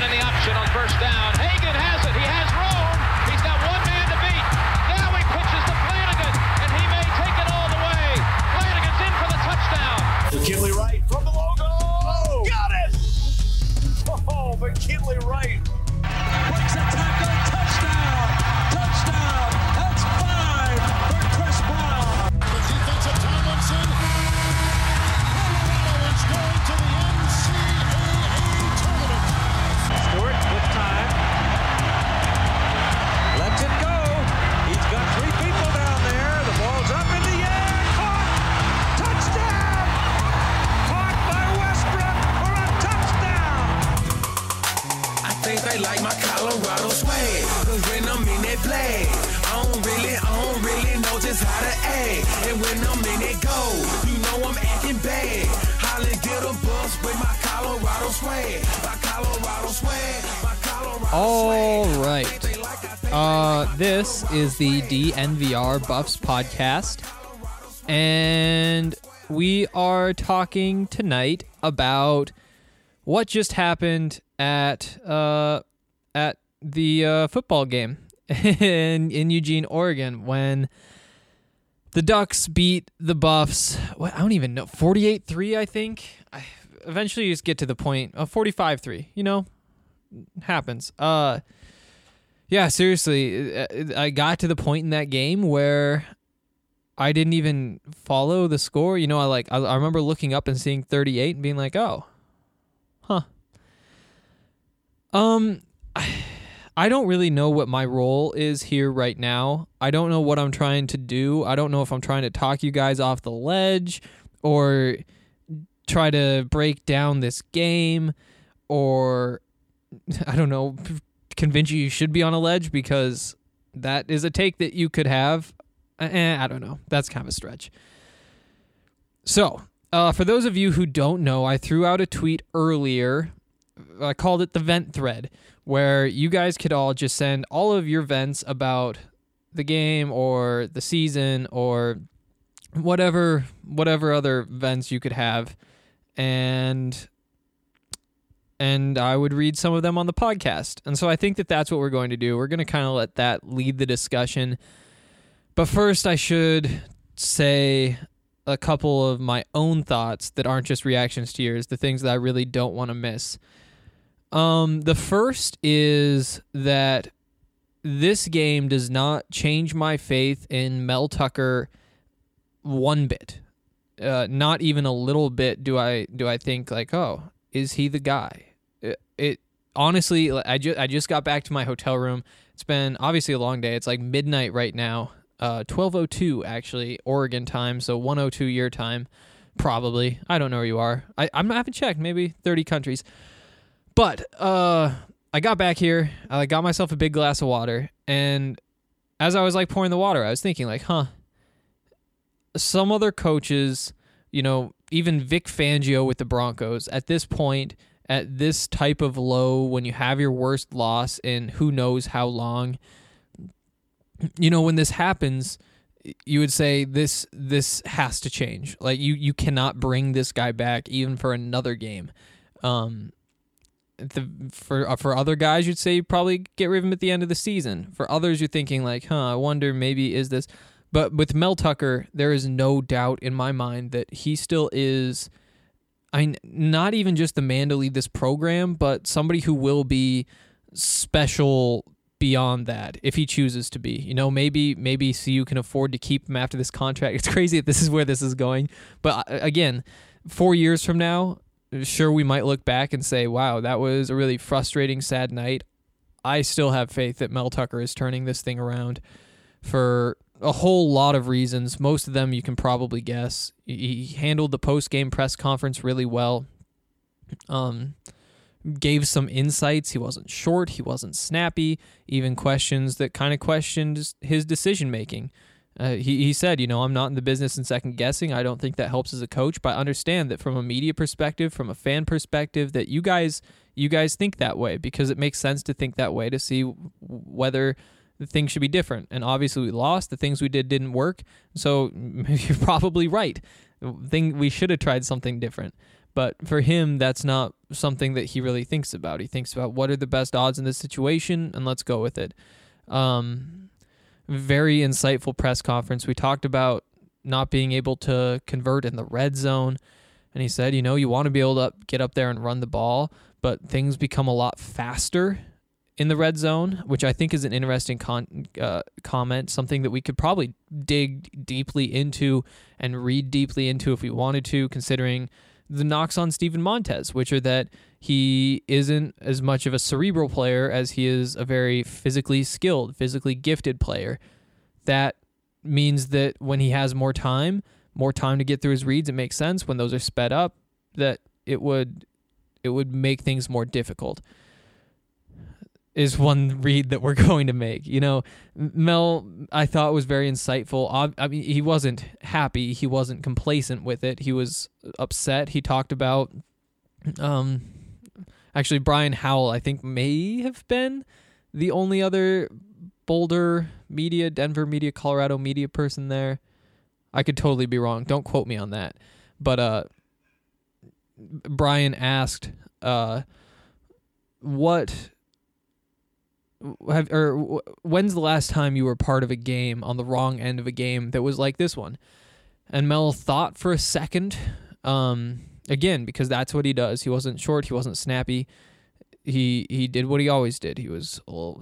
in the option on first down. Hagan has it. He has room. He's got one man to beat. Now he pitches to Flanagan, and he may take it all the way. Flanagan's in for the touchdown. McKinley Wright from the logo. Oh, got it! Oh, McKinley Wright. Breaks a tackle. Touchdown. Touchdown. That's 5 for Chris Brown. The defensive Tomlinson. Colorado is going to the NCAA tournament. Stewart with time. Lets it go. He's got 3 people down there. The ball's up in the air. Caught. Touchdown. Caught by Westbrook for a touchdown. I think they like my Colorado swag, cause when I'm in that play, I don't really know just how to act. And when I'm in that go, you know I'm acting bad. Holly get a bus with my Colorado swag, my Colorado swag, my Colorado All swag. right. This is the DNVR Buffs podcast, and we are talking tonight about what just happened at the football game in Eugene, Oregon, when the Ducks beat the Buffs. I don't even know, 48-3, I think. Eventually, you just get to the point of 45-3. You know, happens. Yeah, seriously, I got to the point in that game where I didn't even follow the score. You know, I remember looking up and seeing 38 and being like, oh, huh. I don't really know what my role is here right now. I don't know what I'm trying to do. I don't know if I'm trying to talk you guys off the ledge or try to break down this game, or I don't know, convince you should be on a ledge, because that is a take that you could have. I don't know. That's kind of a stretch. So, for those of you who don't know, I threw out a tweet earlier. I called it the vent thread, where you guys could all just send all of your vents about the game or the season or whatever other vents you could have, and I would read some of them on the podcast. And so I think that that's what we're going to do. We're going to kind of let that lead the discussion. But first, I should say a couple of my own thoughts that aren't just reactions to yours, the things that I really don't want to miss. The first is that this game does not change my faith in Mel Tucker one bit. Not even a little bit do I think like, oh, is he the guy? It honestly, I just got back to my hotel room. It's been obviously a long day. It's like midnight right now. 12:02 actually, Oregon time, so 1:02 your time, probably. I don't know where you are. I haven't checked. Maybe 30 countries. But I got back here. I got myself a big glass of water, and as I was like pouring the water, I was thinking like, some other coaches, you know, even Vic Fangio with the Broncos, at this point, at this type of low, when you have your worst loss in who knows how long, you know, when this happens, you would say this has to change. Like you cannot bring this guy back even for another game. For other guys, you'd say probably get rid of him at the end of the season. For others, you're thinking like, I wonder maybe is this. But with Mel Tucker, there is no doubt in my mind that he still is, not even just the man to lead this program, but somebody who will be special beyond that if he chooses to be. You know, maybe CU can afford to keep him after this contract. It's crazy that this is where this is going. But again, 4 years from now, sure, we might look back and say, wow, that was a really frustrating, sad night. I still have faith that Mel Tucker is turning this thing around for a whole lot of reasons. Most of them you can probably guess. He handled the post-game press conference really well. Gave some insights. He wasn't short. He wasn't snappy. Even questions that kind of questioned his decision-making. He said, you know, I'm not in the business in second guessing. I don't think that helps as a coach, but I understand that from a media perspective, from a fan perspective, that you guys think that way because it makes sense to think that way to see whether the things should be different. And obviously we lost. The things we did didn't work. So you're probably right. We should have tried something different. But for him, that's not something that he really thinks about. He thinks about what are the best odds in this situation, and let's go with it. Very insightful press conference. We talked about not being able to convert in the red zone, and he said, you want to be able to get up there and run the ball, but things become a lot faster in the red zone, which I think is an interesting comment, something that we could probably dig deeply into and read deeply into if we wanted to, considering the knocks on Steven Montez, which are that he isn't as much of a cerebral player as he is a very physically skilled, physically gifted player. That means that when he has more time to get through his reads, it makes sense. When those are sped up, that it would make things more difficult, is one read that we're going to make. Mel, I thought, was very insightful. I mean, he wasn't happy. He wasn't complacent with it. He was upset. He talked about, actually, Brian Howell, I think, may have been the only other Boulder media, Denver media, Colorado media person there. I could totally be wrong. Don't quote me on that. But Brian asked, when's the last time you were part of a game on the wrong end of a game that was like this one? And Mel thought for a second, again, because that's what he does. He wasn't short. He wasn't snappy. He did what he always did. He was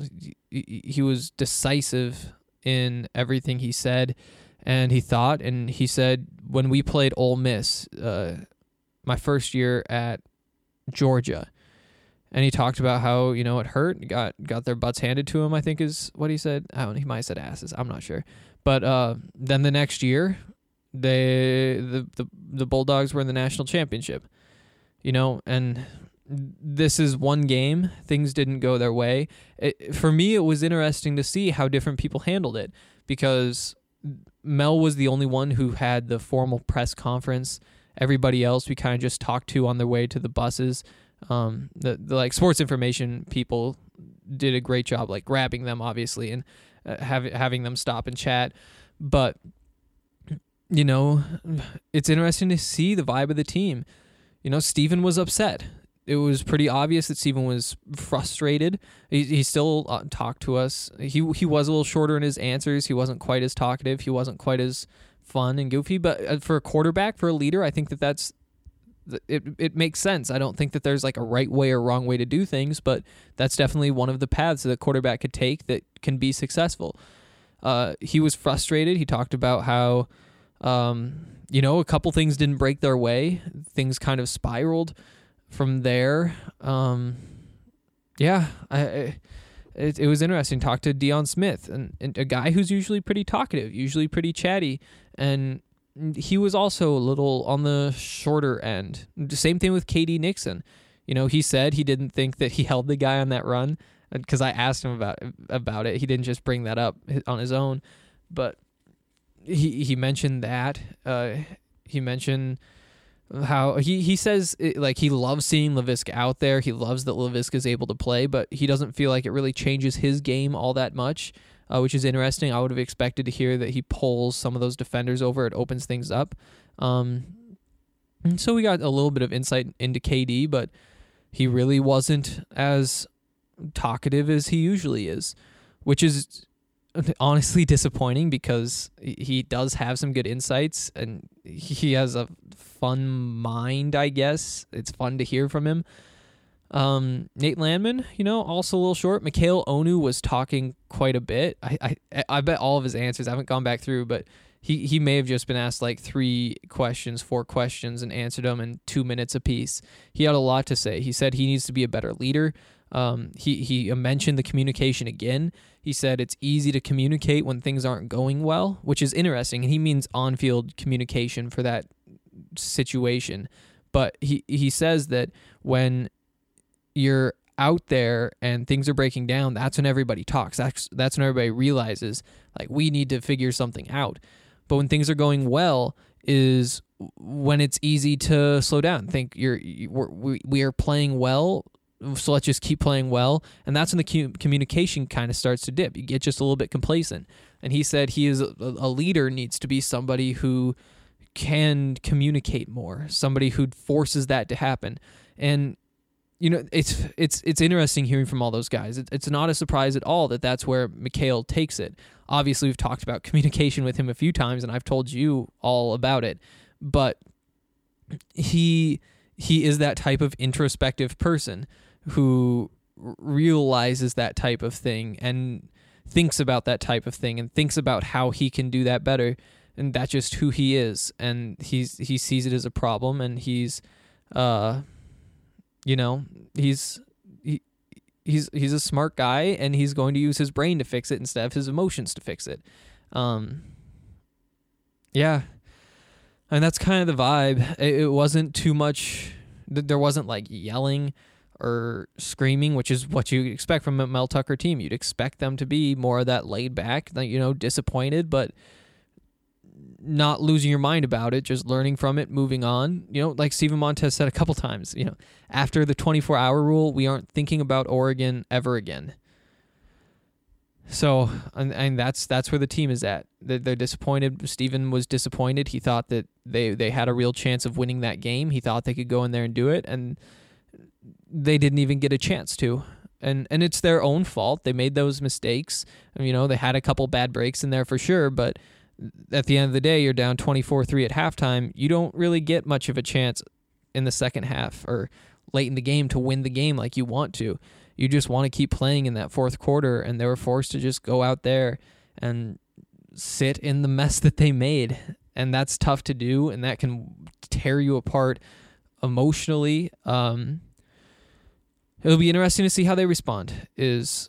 decisive in everything he said, and he thought, and he said, when we played Ole Miss, my first year at Georgia, and he talked about how, it hurt, got their butts handed to him, I think is what he said. I don't know, he might have said asses. I'm not sure. But then the next year, the Bulldogs were in the national championship. And this is one game. Things didn't go their way. For me, it was interesting to see how different people handled it, because Mel was the only one who had the formal press conference. Everybody else we kind of just talked to on their way to the buses. The like sports information people did a great job, like grabbing them, obviously, and having them stop and chat. But it's interesting to see the vibe of the team. Steven was upset. It was pretty obvious that Steven was frustrated. He still talked to us. He was a little shorter in his answers. He wasn't quite as talkative. He wasn't quite as fun and goofy. But for a quarterback, for a leader, I think that's it makes sense. I don't think that there's like a right way or wrong way to do things, but that's definitely one of the paths that a quarterback could take that can be successful. He was frustrated. He talked about how, a couple things didn't break their way. Things kind of spiraled from there. It was interesting. Talked to Deion Smith, and a guy who's usually pretty talkative, usually pretty chatty, and he was also a little on the shorter end. Same thing with KD Nixon. He said he didn't think that he held the guy on that run, because I asked him about it. He didn't just bring that up on his own, but he mentioned that. He mentioned how he says he loves seeing Laviska out there. He loves that Laviska is able to play, but he doesn't feel like it really changes his game all that much. Which is interesting. I would have expected to hear that he pulls some of those defenders over. It opens things up. And so we got a little bit of insight into KD, but he really wasn't as talkative as he usually is, which is honestly disappointing, because he does have some good insights and he has a fun mind, I guess. It's fun to hear from him. Nate Landman, also a little short. Mikhail Onu was talking quite a bit. I bet all of his answers, I haven't gone back through, but he may have just been asked like 4 questions and answered them in 2 minutes apiece. He had a lot to say. He said he needs to be a better leader. He mentioned the communication again. He said it's easy to communicate when things aren't going well, which is interesting. And he means on-field communication for that situation. But he says that when you're out there and things are breaking down, that's when everybody talks. That's when everybody realizes, like, we need to figure something out. But when things are going well is when it's easy to slow down. Think we are playing well, so let's just keep playing well. And that's when the communication kind of starts to dip. You get just a little bit complacent. And he said a leader needs to be somebody who can communicate more, somebody who forces that to happen. And it's interesting hearing from all those guys. It's not a surprise at all that that's where Mikhail takes it. Obviously, we've talked about communication with him a few times, and I've told you all about it. But he is that type of introspective person who realizes that type of thing and thinks about that type of thing and thinks about how he can do that better. And that's just who he is. And he sees it as a problem, and he's a smart guy, and he's going to use his brain to fix it instead of his emotions to fix it. Yeah. And that's kind of the vibe. It wasn't too much. There wasn't like yelling or screaming, which is what you expect from a Mel Tucker team. You'd expect them to be more of that laid back, disappointed, but not losing your mind about it, just learning from it, moving on. Like Steven Montez said a couple times, after the 24-hour rule, we aren't thinking about Oregon ever again. So, and that's where the team is at. They're disappointed. Steven was disappointed. He thought that they had a real chance of winning that game. He thought they could go in there and do it, and they didn't even get a chance to. And it's their own fault. They made those mistakes. They had a couple bad breaks in there for sure, but at the end of the day, you're down 24-3 at halftime. You don't really get much of a chance in the second half or late in the game to win the game like you want to. You just want to keep playing in that fourth quarter, and they were forced to just go out there and sit in the mess that they made. And that's tough to do, and that can tear you apart emotionally. It'll be interesting to see how they respond is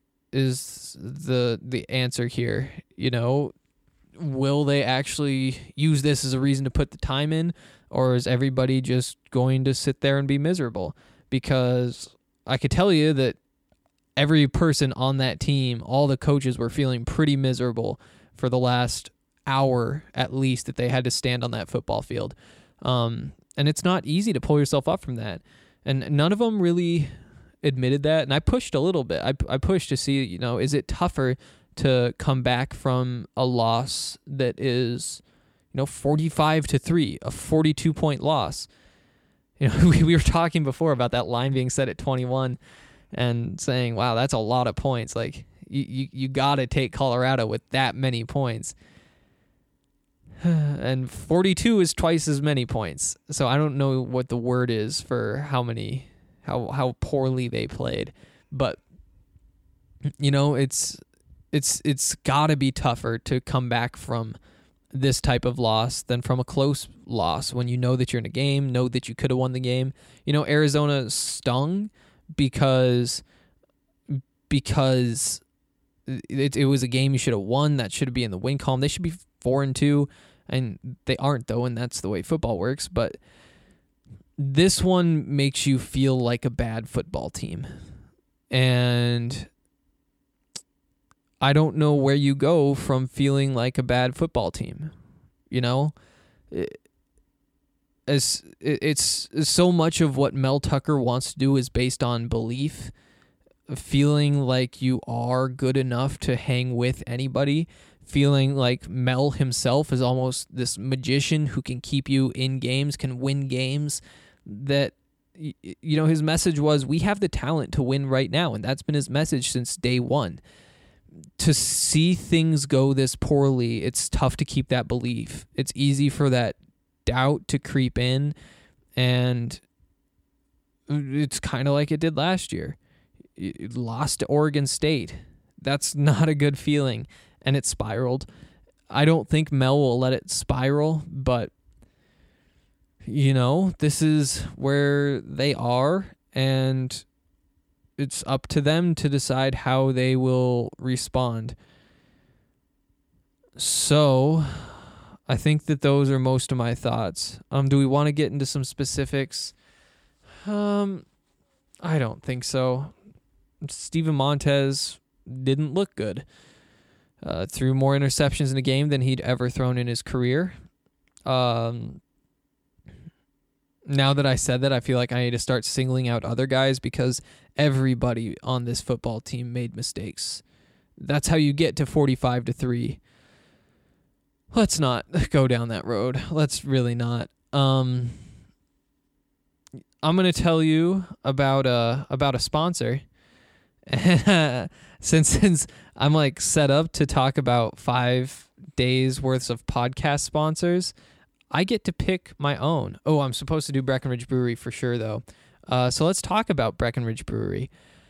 the answer here. Will they actually use this as a reason to put the time in, or is everybody just going to sit there and be miserable? Because I could tell you that every person on that team, all the coaches were feeling pretty miserable for the last hour at least that they had to stand on that football field. And it's not easy to pull yourself up from that. And none of them really admitted that. And I pushed a little bit. I pushed to see, is it tougher to come back from a loss that is, 45-3, a 42-point loss. We were talking before about that line being set at 21 and saying, wow, that's a lot of points. Like, you got to take Colorado with that many points. And 42 is twice as many points. So I don't know what the word is for how poorly they played. But, it's got to be tougher to come back from this type of loss than from a close loss when you know that you're in a game, know that you could have won the game. Arizona stung because it was a game you should have won. That should be in the win column. They should be 4-2, and they aren't, though, and that's the way football works. But this one makes you feel like a bad football team. And I don't know where you go from feeling like a bad football team. It's so much of what Mel Tucker wants to do is based on belief, feeling like you are good enough to hang with anybody, feeling like Mel himself is almost this magician who can keep you in games, can win games. That, his message was, we have the talent to win right now, and that's been his message since day one. To see things go this poorly, it's tough to keep that belief. It's easy for that doubt to creep in, and it's kind of like it did last year. It lost to Oregon State. That's not a good feeling, and it spiraled. I don't think Mel will let it spiral, but, this is where they are, and it's up to them to decide how they will respond. So, I think that those are most of my thoughts. Do we want to get into some specifics? I don't think so. Steven Montez didn't look good. Threw more interceptions in the game than he'd ever thrown in his career. Now that I said that, I feel like I need to start singling out other guys because everybody on this football team made mistakes. That's how you get to 45-3. let's not go down that road. Let's really not. I'm going to tell you about a sponsor. since I'm like set up to talk about 5 days worth of podcast sponsors, I get to pick my own. Oh, I'm supposed to do Breckenridge Brewery for sure though. So let's talk about Breckenridge Brewery.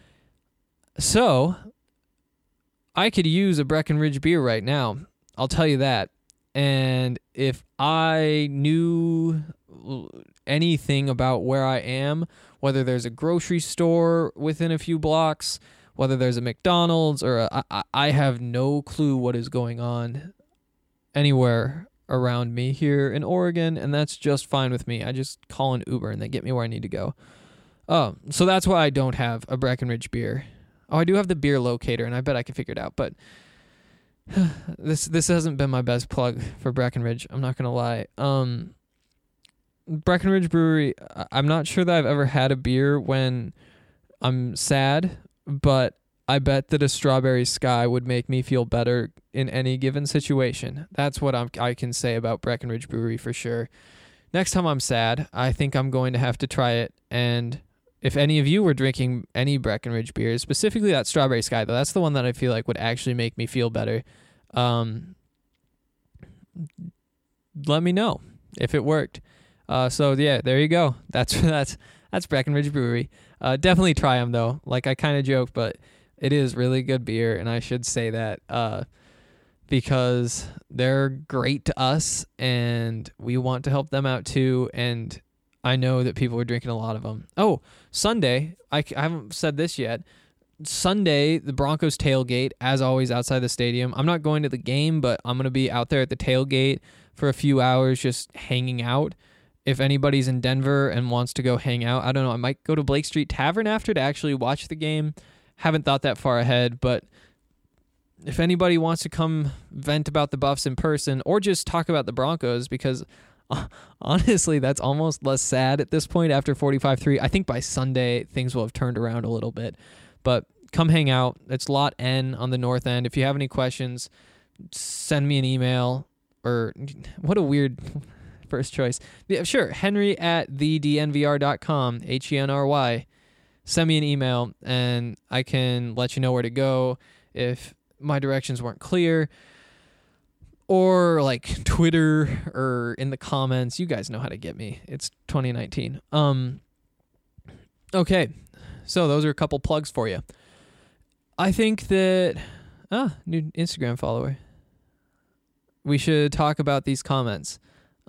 So I could use a Breckenridge beer right now. I'll tell you that. And if I knew anything about where I am, whether there's a grocery store within a few blocks, whether there's a McDonald's, or I have no clue what is going on anywhere around me here in Oregon, and that's just fine with me. I just call an Uber and they get me where I need to go. So that's why I don't have a Breckenridge beer. Oh, I do have the beer locator, and I bet I can figure it out, but this hasn't been my best plug for Breckenridge. I'm not gonna lie. Breckenridge Brewery, I'm not sure that I've ever had a beer when I'm sad, but I bet that a Strawberry Sky would make me feel better in any given situation. That's what I can say about Breckenridge Brewery for sure. Next time I'm sad, I think I'm going to have to try it. And if any of you were drinking any Breckenridge beers, specifically that Strawberry Sky, though, that's the one that I feel like would actually make me feel better. Let me know if it worked. So yeah, there you go. That's Breckenridge Brewery. Definitely try them though. Like I kind of joke, but it is really good beer, and I should say that because they're great to us, and we want to help them out too. And I know that people are drinking a lot of them. Oh, Sunday, I haven't said this yet. Sunday, the Broncos tailgate, as always, outside the stadium. I'm not going to the game, but I'm going to be out there at the tailgate for a few hours just hanging out. If anybody's in Denver and wants to go hang out, I don't know, I might go to Blake Street Tavern after to actually watch the game. Haven't thought that far ahead, but if anybody wants to come vent about the Buffs in person or just talk about the Broncos, because honestly, that's almost less sad at this point after 45-3. I think by Sunday, things will have turned around a little bit. But come hang out. It's Lot N on the north end. If you have any questions, send me an email. Or what a weird first choice. Yeah, sure, henry@thednvr.com, HENRY. Send me an email, and I can let you know where to go if my directions weren't clear. Or like Twitter or in the comments. You guys know how to get me. It's 2019. Okay, so those are a couple plugs for you. I think that... new Instagram follower. We should talk about these comments.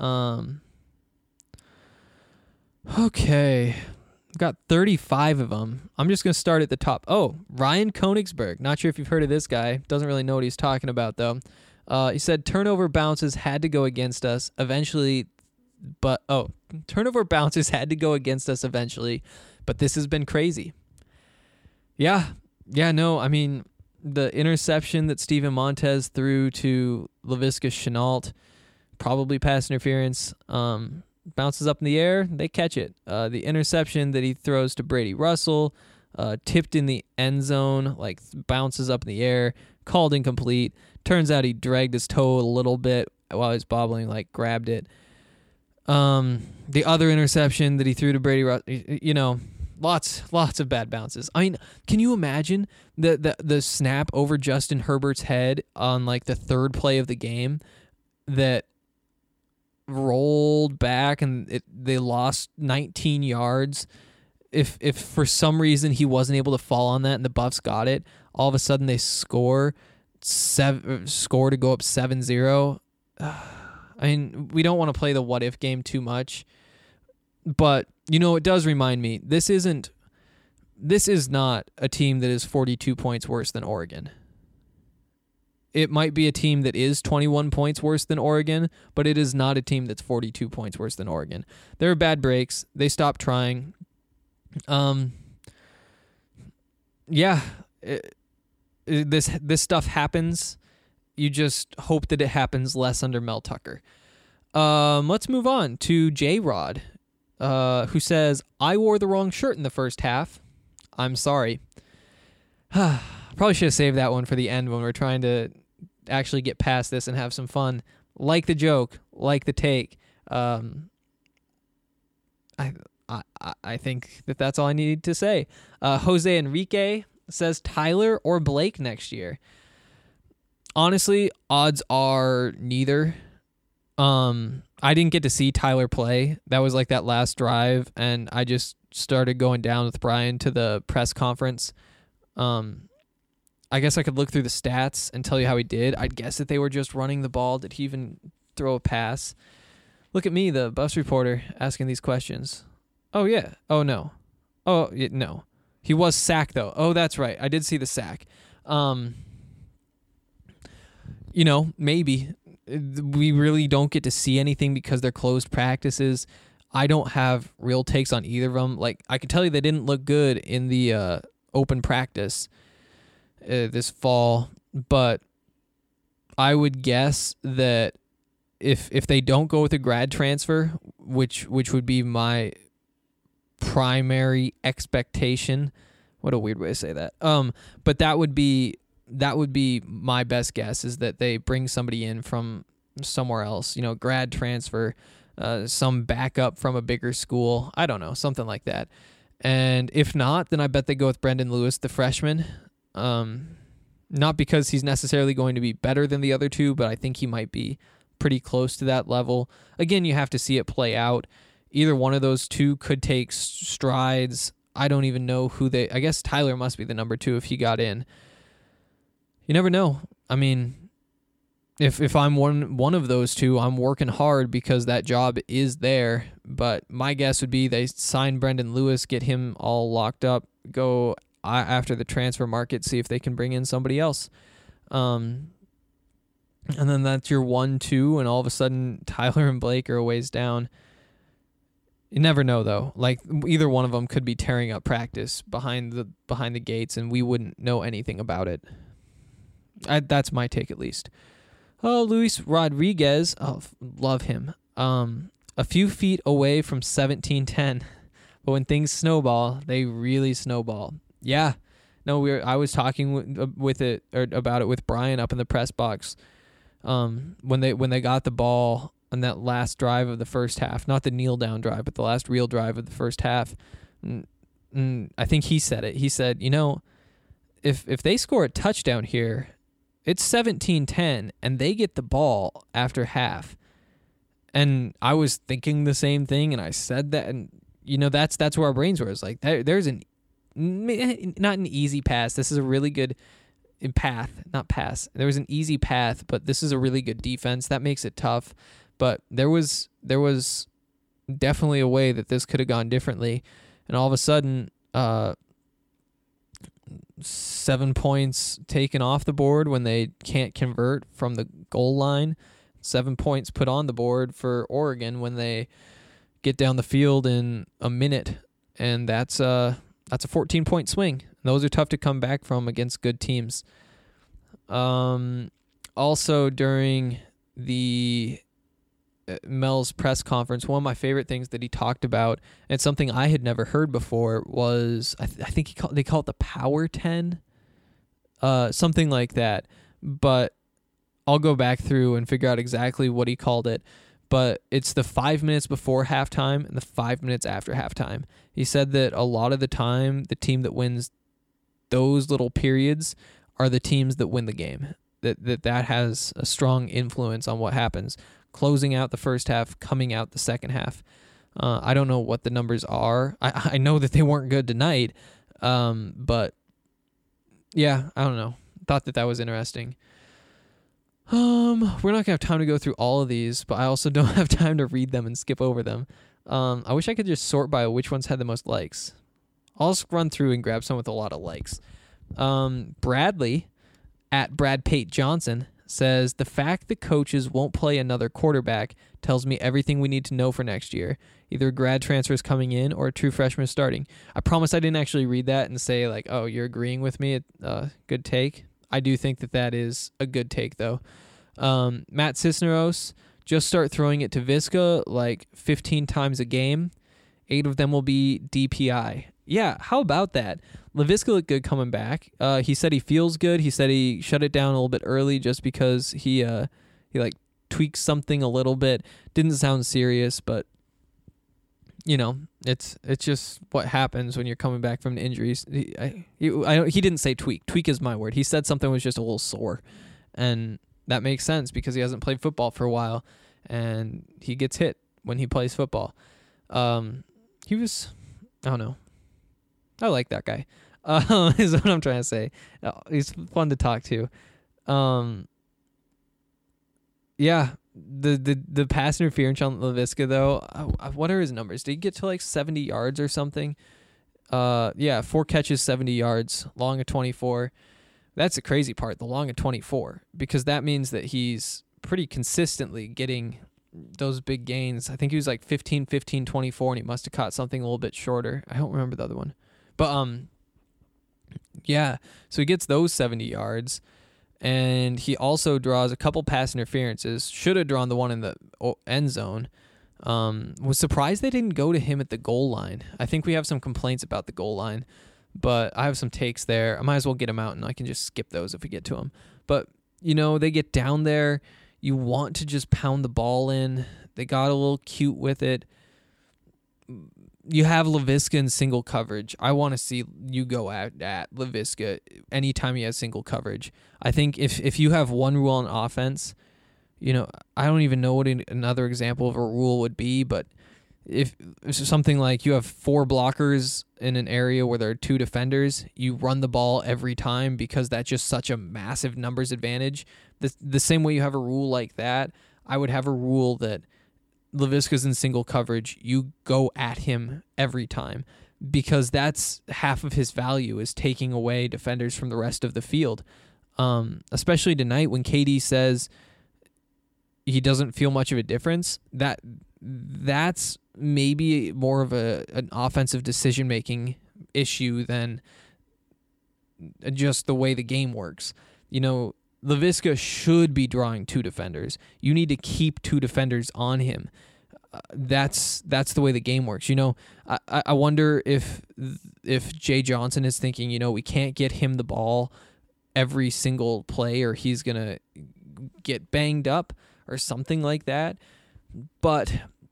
Okay. I've got 35 of them. I'm just going to start at the top. Oh, Ryan Konigsberg. Not sure if you've heard of this guy. Doesn't really know what he's talking about, though. He said turnover bounces had to go against us eventually, but turnover bounces had to go against us eventually, but this has been crazy. Yeah, no, I mean, the interception that Steven Montez threw to Laviska Shenault, probably pass interference, bounces up in the air, they catch it. The interception that he throws to Brady Russell, tipped in the end zone, like bounces up in the air, called incomplete. Turns out he dragged his toe a little bit while he was bobbling, like grabbed it. The other interception that he threw to Brady Russell, lots of bad bounces. I mean, can you imagine the snap over Justin Herbert's head on like the third play of the game that rolled back and they lost 19 yards? If for some reason he wasn't able to fall on that and the Buffs got it, all of a sudden they score to go up 7-0. I mean, we don't want to play the what if game too much, but it does remind me this is not a team that is 42 points worse than Oregon. It might be a team that is 21 points worse than Oregon, but it is not a team that's 42 points worse than Oregon. There are bad breaks. They stopped trying. This stuff happens. You just hope that it happens less under Mel Tucker. Let's move on to J-Rod, who says, I wore the wrong shirt in the first half. I'm sorry. Probably should have saved that one for the end when we're trying to actually get past this and have some fun. like the joke, like the take. I think that's all I need to say. Jose Enrique says Tyler or Blake next year. Honestly, odds are neither. I didn't get to see Tyler play. That was like that last drive, and I just started going down with Brian to the press conference. I guess I could look through the stats and tell you how he did. I'd guess that they were just running the ball. Did he even throw a pass? Look at me, the bus reporter, asking these questions. Oh, yeah. Oh, no. Oh, yeah, no. He was sacked, though. Oh, that's right. I did see the sack. Maybe. We really don't get to see anything because they're closed practices. I don't have real takes on either of them. Like, I can tell you they didn't look good in the open practice this fall, but I would guess that if they don't go with a grad transfer, which would be my primary expectation. What a weird way to say that. But that would be my best guess, is that they bring somebody in from somewhere else, grad transfer, some backup from a bigger school. I don't know, something like that. And if not, then I bet they go with Brendan Lewis, the freshman. Not because he's necessarily going to be better than the other two, but I think he might be pretty close to that level. Again, you have to see it play out. Either one of those two could take strides. I don't even know I guess Tyler must be the number 2 if he got in. You never know. I mean, if I'm one of those two, I'm working hard because that job is there. But my guess would be they sign Brendan Lewis, get him all locked up, go after the transfer market, see if they can bring in somebody else. And then that's your 1-2, and all of a sudden Tyler and Blake are a ways down. You never know, though. Like, either one of them could be tearing up practice behind the gates, and we wouldn't know anything about it. That's my take, at least. Oh, Luis Rodriguez. Oh, love him. A few feet away from 17-10. But when things snowball, they really snowball. Yeah. No, I was talking about it with Brian up in the press box. When they got the ball on that last drive of the first half, not the kneel down drive, but the last real drive of the first half. I think he said it. He said, if they score a touchdown here, it's 17-10, and they get the ball after half. And I was thinking the same thing, and I said that, and that's where our brains were. It's like there's not an easy pass. This is a really good path, not pass. There was an easy path, but this is a really good defense. That makes it tough. But there was definitely a way that this could have gone differently, and all of a sudden, 7 points taken off the board when they can't convert from the goal line. 7 points put on the board for Oregon when they get down the field in a minute, and that's a 14-point swing. Those are tough to come back from against good teams. Also, during the Mel's press conference, one of my favorite things that he talked about, and it's something I had never heard before, was I think they call it the Power 10, something like that. But I'll go back through and figure out exactly what he called it. But it's the 5 minutes before halftime and the 5 minutes after halftime. He said that a lot of the time, the team that wins those little periods are the teams that win the game. That has a strong influence on what happens. Closing out the first half, coming out the second half. I don't know what the numbers are. I know that they weren't good tonight. But yeah, I don't know. Thought that was interesting. We're not going to have time to go through all of these, but I also don't have time to read them and skip over them. I wish I could just sort by which ones had the most likes. I'll just run through and grab some with a lot of likes. Bradley, at Brad Pate Johnson, says, the fact that coaches won't play another quarterback tells me everything we need to know for next year. Either grad transfers coming in or a true freshman starting. I promise I didn't actually read that and say, like, oh, you're agreeing with me. Good take. I do think that is a good take, though. Matt Cisneros, just start throwing it to Visca like 15 times a game. 8 of them will be DPI. Yeah, how about that? Laviska looked good coming back. He said he feels good. He said he shut it down a little bit early just because he tweaked something a little bit. Didn't sound serious, but it's just what happens when you're coming back from injuries. He didn't say tweak. Tweak is my word. He said something was just a little sore, and that makes sense because he hasn't played football for a while, and he gets hit when he plays football. He was, I don't know. I like that guy. Is what I'm trying to say. He's fun to talk to. Yeah. The pass interference on Laviska though, what are his numbers? Did he get to like 70 yards or something? 4 catches, 70 yards, long of 24. That's the crazy part, the long of 24, because that means that he's pretty consistently getting those big gains. I think he was like 15, 24, and he must have caught something a little bit shorter. I don't remember the other one. But yeah, so he gets those 70 yards. And he also draws a couple pass interferences. Should have drawn the one in the end zone. Was surprised they didn't go to him at the goal line. I think we have some complaints about the goal line, but I have some takes there. I might as well get them out, and I can just skip those if we get to them. But, they get down there. You want to just pound the ball in. They got a little cute with it. You have Laviska in single coverage. I want to see you go at Laviska anytime he has single coverage. I think if you have one rule on offense, I don't even know what another example of a rule would be, but if it's something like you have 4 blockers in an area where there are 2 defenders, you run the ball every time because that's just such a massive numbers advantage. The same way you have a rule like that, I would have a rule that Laviska's in single coverage, you go at him every time, because that's half of his value is taking away defenders from the rest of the field. Especially tonight when KD says he doesn't feel much of a difference, that's maybe more of an offensive decision-making issue than just the way the game works. Laviska should be drawing 2 defenders. You need to keep 2 defenders on him. That's the way the game works. I wonder if Jay Johnson is thinking, we can't get him the ball every single play or he's going to get banged up or something like that. But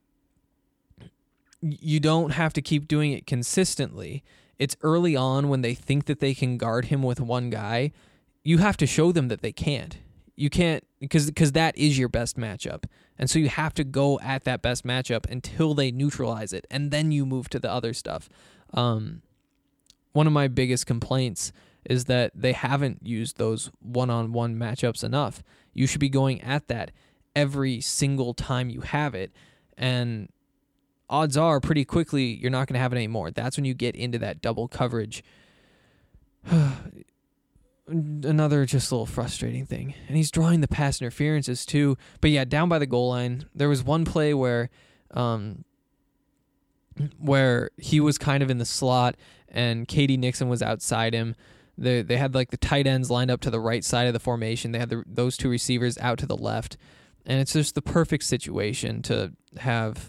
you don't have to keep doing it consistently. It's early on when they think that they can guard him with one guy. You have to show them that they can't. You can't, because that is your best matchup. And so you have to go at that best matchup until they neutralize it, and then you move to the other stuff. One of my biggest complaints is that they haven't used those one-on-one matchups enough. You should be going at that every single time you have it, and odds are pretty quickly you're not going to have it anymore. That's when you get into that double coverage. Another just a little frustrating thing. And he's drawing the pass interferences too. But yeah, down by the goal line, there was one play where he was kind of in the slot and Katie Nixon was outside him. They had like the tight ends lined up to the right side of the formation. They had those 2 receivers out to the left. And it's just the perfect situation to have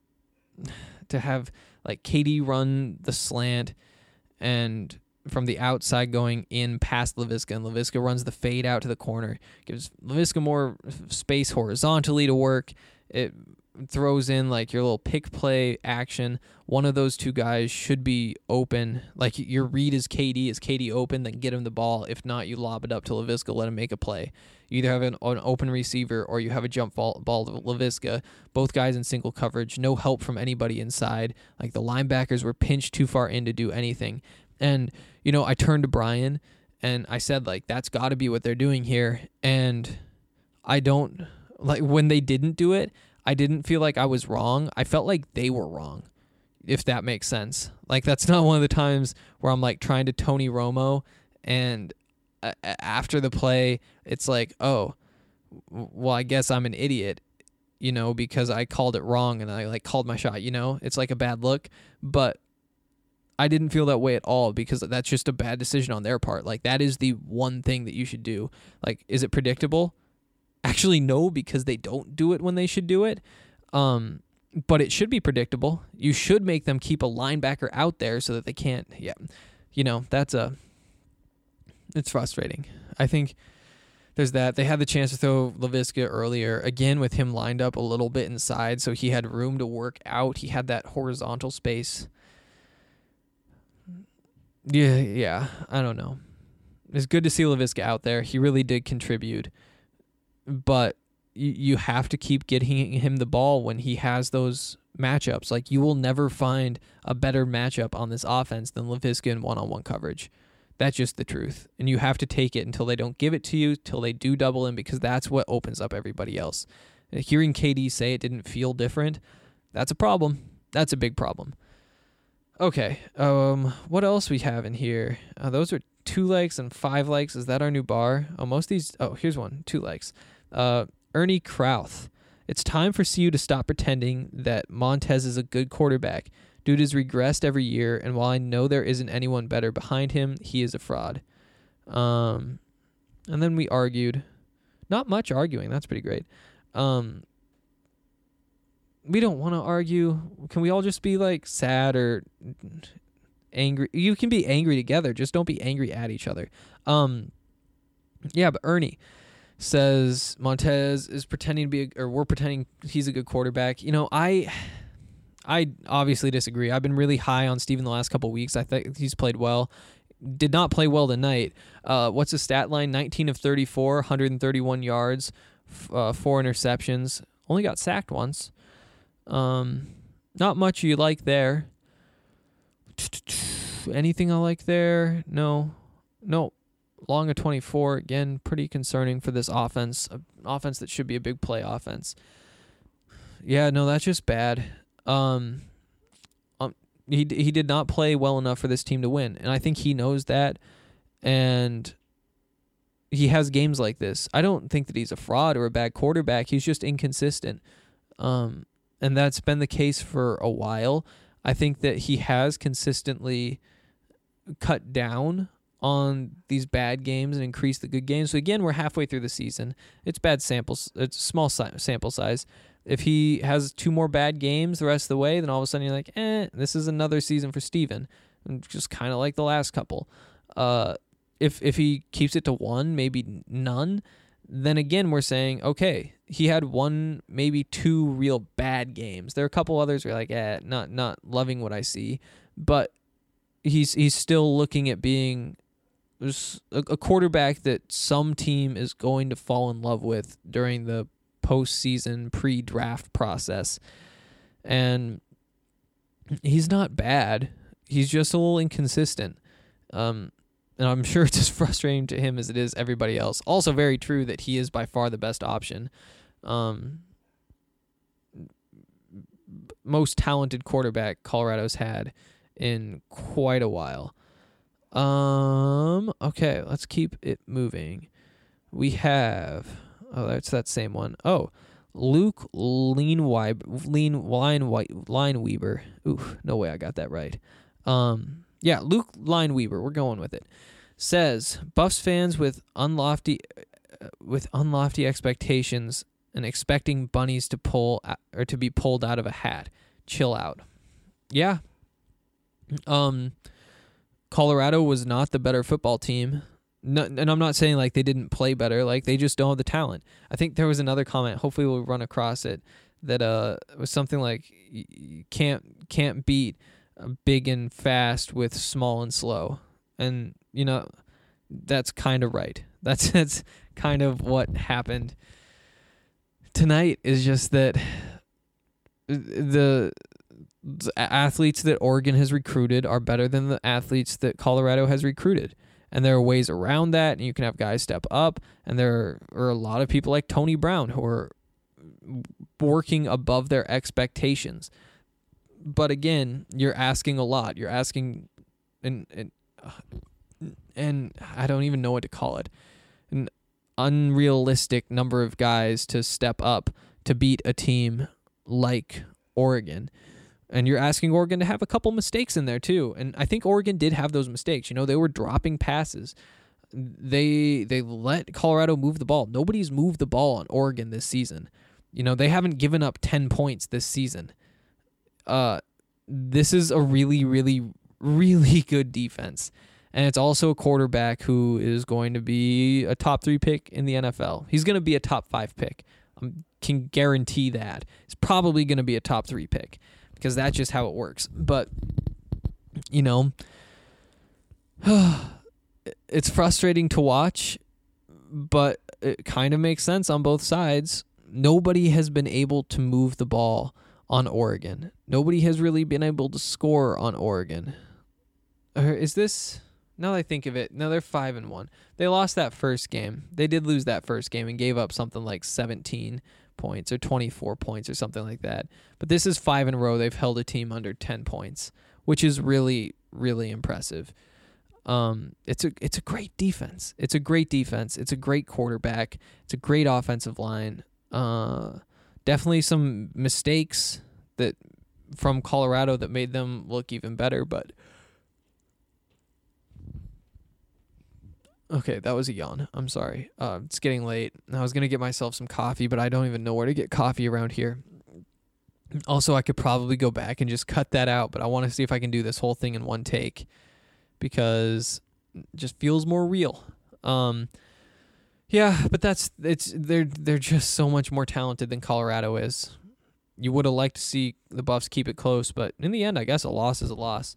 like Katie run the slant and from the outside going in past Laviska, and Laviska runs the fade out to the corner, gives Laviska more space horizontally to work. It throws in like your little pick play action. One of those 2 guys should be open. Like your read is KD open, then get him the ball. If not, you lob it up to Laviska, let him make a play. You either have an open receiver or you have a jump ball to Laviska. Both guys in single coverage, no help from anybody inside. Like the linebackers were pinched too far in to do anything. And, I turned to Brian and I said, like, that's got to be what they're doing here. And I don't, like, when they didn't do it, I didn't feel like I was wrong. I felt like they were wrong, if that makes sense. Like, that's not one of the times where I'm, like, trying to Tony Romo and after the play, it's like, oh, well, I guess I'm an idiot, because I called it wrong and I, like, called my shot, It's like a bad look. But I didn't feel that way at all because that's just a bad decision on their part. Like, that is the one thing that you should do. Like, is it predictable? Actually, no, because they don't do it when they should do it. But it should be predictable. You should make them keep a linebacker out there so that they can't. Yeah, it's frustrating. I think There's that. They had the chance to throw Laviska earlier, again with him lined up a little bit inside, so he had room to work out. He had that horizontal space. Yeah, I don't know. It's good to see Laviska out there. He really did contribute. But you have to keep getting him the ball when he has those matchups. Like, you will never find a better matchup on this offense than Laviska in one-on-one coverage. That's just the truth. And you have to take it until they don't give it to you, till they do double him, because that's what opens up everybody else. And hearing KD say it didn't feel different, that's a problem. That's a big problem. Okay, what else we have in here? Those are 2 likes and 5 likes. Is that our new bar? Most of these... Oh, here's one. 2 likes. Ernie Krauth. It's time for CU to stop pretending that Montez is a good quarterback. Dude has regressed every year, and while I know there isn't anyone better behind him, he is a fraud. And then we argued. Not much arguing. That's pretty great. We don't want to argue. Can we all just be like sad or angry? You can be angry together. Just don't be angry at each other. Yeah, but Ernie says Montez is pretending to be, or we're pretending he's a good quarterback. You know, I obviously disagree. I've been really high on Steven the last couple of weeks. I think he's played well. Did not play well tonight. What's his stat line? 19 of 34, 131 yards, 4 interceptions. Only got sacked once. Not much you like there. Anything I like there? No. Long of 24. Again, pretty concerning for this offense. An offense that should be a big play offense. Yeah, no, that's just bad. He did not play well enough for this team to win, and I think he knows that, and he has games like this. I don't think that he's a fraud or a bad quarterback. He's just inconsistent, and that's been the case for a while. I think that he has consistently cut down on these bad games and increased the good games. So again, we're halfway through the season. It's bad samples. It's small sample size. If he has 2 more bad games the rest of the way, then all of a sudden you're like, this is another season for Steven. And just kind of like the last couple. If he keeps it to 1, maybe none, then again we're saying, okay, he had 1, maybe 2 real bad games. There are a couple others where you're like, not loving what I see. But he's still looking at being a quarterback that some team is going to fall in love with during the postseason pre-draft process. And he's not bad. He's just a little inconsistent. And I'm sure it's as frustrating to him as it is everybody else. Also very true that he is by far the best option. Most talented quarterback Colorado's had in quite a while. Okay, let's keep it moving. We have... Oh, that's that same one. Oh, Luke Lineweber. Ooh, no way I got that right. Yeah, Luke Lineweber. We're going with it. Says Buffs fans with unlofty expectations and expecting bunnies to be pulled out of a hat. Chill out. Yeah. Colorado was not the better football team. No, and I'm not saying like they didn't play better, like they just don't have the talent. I think there was another comment, hopefully we'll run across it, that was something like you can't beat big and fast with small and slow. And you know, that's kind of right. That's kind of what happened tonight. Is just that the athletes that Oregon has recruited are better than the athletes that Colorado has recruited. And there are ways around that, and you can have guys step up. And there are a lot of people like Tony Brown who are working above their expectations. But again, you're asking a lot. You're asking, and I don't even know what to call it, an unrealistic number of guys to step up to beat a team like Oregon. And you're asking Oregon to have a couple mistakes in there too. And I think Oregon did have those mistakes. You know, they were dropping passes. They let Colorado move the ball. Nobody's moved the ball on Oregon this season. You know, they haven't given up 10 points this season. This is a really, really, really good defense. And it's also a quarterback who is going to be a top 3 pick in the NFL. He's going to be a top 5 pick. I can guarantee that. He's probably going to be a top 3 pick because that's just how it works. But, you know, it's frustrating to watch, but it kind of makes sense on both sides. Nobody has been able to move the ball on Oregon. Nobody has really been able to score on Oregon. Is this... Now that I think of it, no, they're 5-1. They lost that first game. They did lose that first game and gave up something like 17 points or 24 points or something like that. But this is 5 in a row. They've held a team under 10 points, which is really, really impressive. It's a great defense. It's a great defense. It's a great quarterback. It's a great offensive line. Definitely some mistakes that from Colorado that made them look even better, but okay, that was a yawn. I'm sorry. It's getting late. I was going to get myself some coffee, but I don't even know where to get coffee around here. Also, I could probably go back and just cut that out, but I want to see if I can do this whole thing in one take because it just feels more real. Yeah, but they're just so much more talented than Colorado is. You would have liked to see the Buffs keep it close, but in the end, I guess a loss is a loss.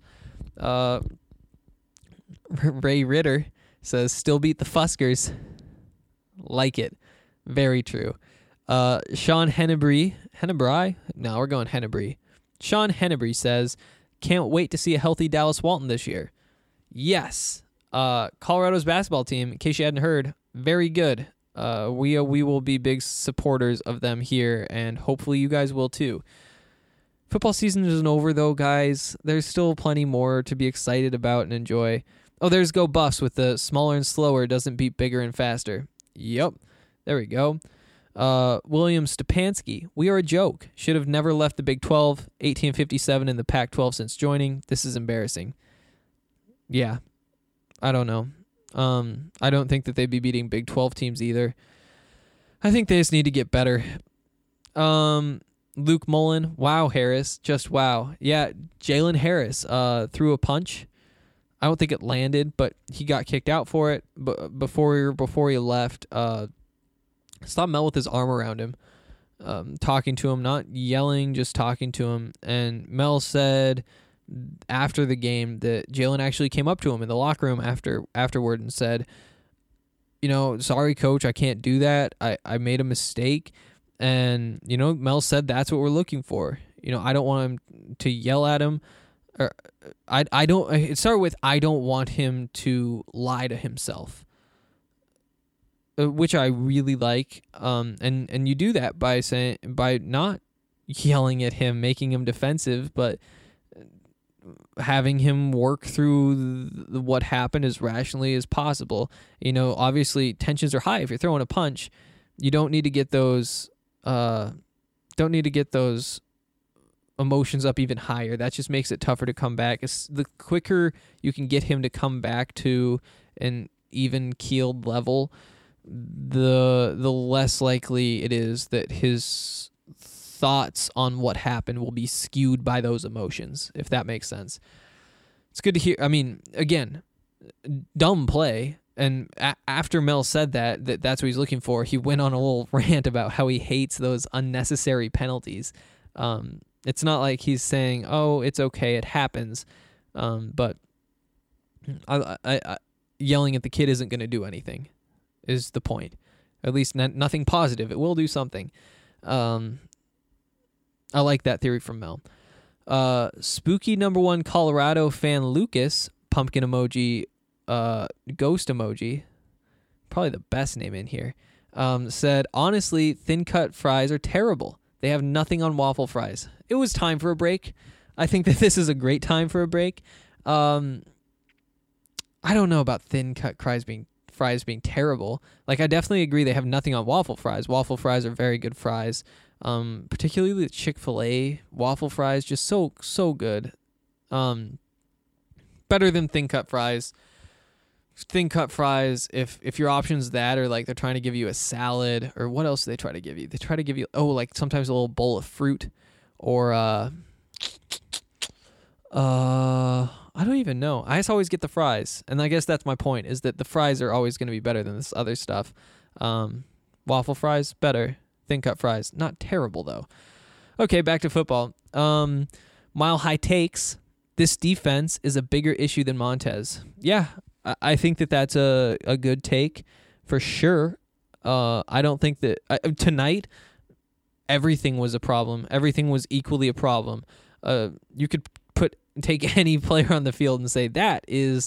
Ray Ritter says, still beat the Fuskers. Like it. Very true. Sean Hennebry. No, we're going Hennebry. Sean Hennebry says, can't wait to see a healthy Dallas Walton this year. Yes. Colorado's basketball team, in case you hadn't heard, very good. We will be big supporters of them here, and hopefully you guys will too. Football season isn't over, though, guys. There's still plenty more to be excited about and enjoy. Oh, there's Go Buffs with the smaller and slower doesn't beat bigger and faster. Yep. There we go. William Stepanski. We are a joke. Should have never left the Big 12. 1857 in the Pac-12 since joining. This is embarrassing. Yeah. I don't know. I don't think that they'd be beating Big 12 teams either. I think they just need to get better. Luke Mullen. Wow, Harris. Just wow. Yeah, Jalen Harris threw a punch. I don't think it landed, but he got kicked out for it. But before he left, Stop Mel with his arm around him, talking to him, not yelling, just talking to him. And Mel said after the game that Jalen actually came up to him in the locker room afterward and said, you know, sorry, coach, I can't do that. I made a mistake. And, you know, Mel said that's what we're looking for. You know, I don't want him to yell at him. Or it started with, I don't want him to lie to himself, which I really like. And you do that by not yelling at him, making him defensive, but having him work through what happened as rationally as possible. You know, obviously tensions are high. If you're throwing a punch, you don't need to get those emotions up even higher. That just makes it tougher to come back. The quicker you can get him to come back to an even keeled level, the less likely it is that his thoughts on what happened will be skewed by those emotions, if that makes sense. It's good to hear. I mean, again, dumb play. And after Mel said that's what he's looking for, he went on a little rant about how he hates those unnecessary penalties. It's not like he's saying, "Oh, it's okay, it happens," but I yelling at the kid isn't going to do anything. Is the point? At least nothing positive. It will do something. I like that theory from Mel. Spooky #1 Colorado fan Lucas, pumpkin emoji, ghost emoji, probably the best name in here, said, honestly, thin cut fries are terrible. They have nothing on waffle fries. It was time for a break. I think that this is a great time for a break. I don't know about thin cut fries being terrible. Like, I definitely agree they have nothing on waffle fries. Waffle fries are very good fries. Particularly the Chick-fil-A waffle fries, just so good. Better than thin cut fries. Thin cut fries, if your option's that, or like they're trying to give you a salad, or what else do they try to give you? They try to give you, like sometimes a little bowl of fruit, or I don't even know. I just always get the fries, and I guess that's my point, is that the fries are always going to be better than this other stuff. Waffle fries, better. Thin cut fries, not terrible, though. Okay, back to football. Mile High takes, this defense is a bigger issue than Montez. Yeah, I think that that's a good take for sure. I don't think that tonight everything was a problem. Everything was equally a problem. You could take any player on the field and say that is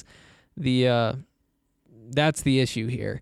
that's the issue here.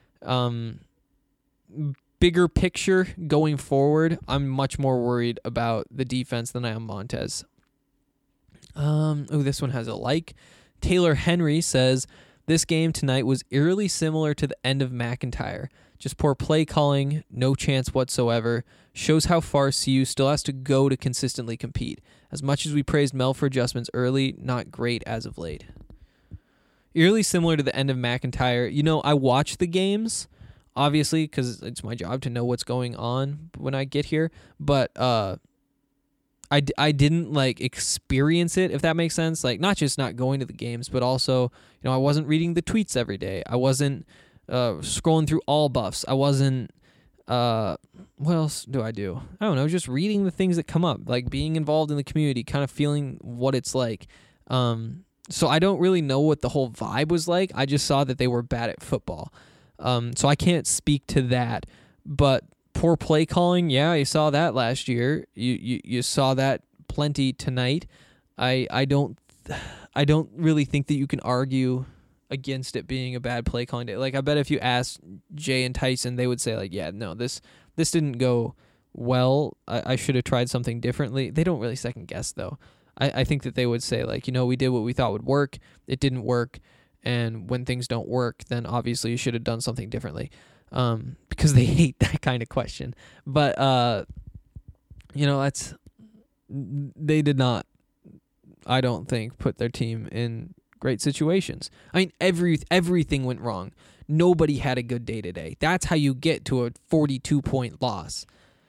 Bigger picture going forward, I'm much more worried about the defense than I am Montez. This one has a like. Taylor Henry says, this game tonight was eerily similar to the end of McIntyre. Just poor play calling, no chance whatsoever. Shows how far CU still has to go to consistently compete. As much as we praised Mel for adjustments early, not great as of late. Eerily similar to the end of McIntyre. You know, I watch the games, obviously, because it's my job to know what's going on when I get here. But I didn't, like, experience it, if that makes sense. Like, not just not going to the games, but also, you know, I wasn't reading the tweets every day. I wasn't scrolling through all buffs. I wasn't, what else do? I don't know, just reading the things that come up, like being involved in the community, kind of feeling what it's like. So I don't really know what the whole vibe was like. I just saw that they were bad at football. So I can't speak to that, but poor play calling, yeah, you saw that last year. You saw that plenty tonight. I don't really think that you can argue against it being a bad play calling day. Like, I bet if you asked Jay and Tyson, they would say, like, yeah, no, this didn't go well. I should have tried something differently. They don't really second guess, though. I think that they would say, like, you know, we did what we thought would work. It didn't work. And when things don't work, then obviously you should have done something differently. Because they hate that kind of question. But, you know, they did not, I don't think, put their team in great situations. I mean, everything went wrong. Nobody had a good day today. That's how you get to a 42-point loss.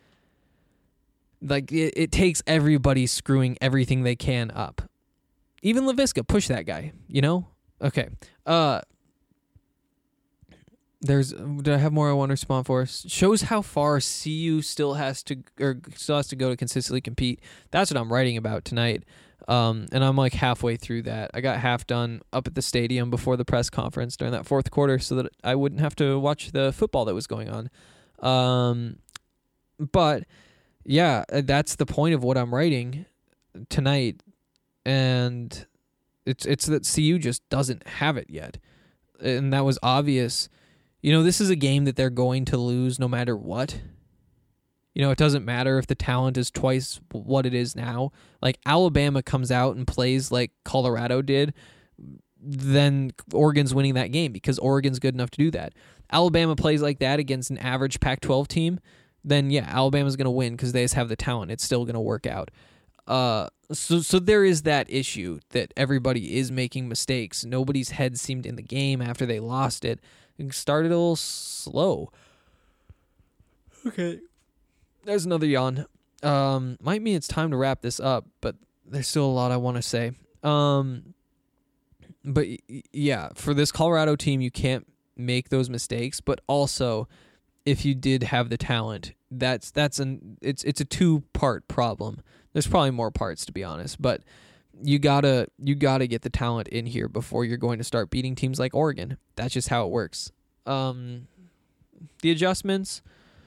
Like, it takes everybody screwing everything they can up. Even LaVisca, push that guy, you know? Okay. Did I have more I want to respond for? Shows how far CU still has to go to consistently compete. That's what I'm writing about tonight. And I'm like halfway through that. I got half done up at the stadium before the press conference during that fourth quarter so that I wouldn't have to watch the football that was going on. But yeah, that's the point of what I'm writing tonight. And it's that CU just doesn't have it yet. And that was obvious. You know, this is a game that they're going to lose no matter what. You know, it doesn't matter if the talent is twice what it is now. Like, Alabama comes out and plays like Colorado did, then Oregon's winning that game because Oregon's good enough to do that. Alabama plays like that against an average Pac-12 team, then yeah, Alabama's going to win because they just have the talent. It's still going to work out. So there is that issue that everybody is making mistakes. Nobody's head seemed in the game after they lost it. It started a little slow. Okay. There's another yawn. Might mean it's time to wrap this up, but there's still a lot I want to say. But yeah, for this Colorado team, you can't make those mistakes. But also, if you did have the talent, it's a two-part problem. There's probably more parts, to be honest, but you gotta get the talent in here before you're going to start beating teams like Oregon. That's just how it works. The adjustments.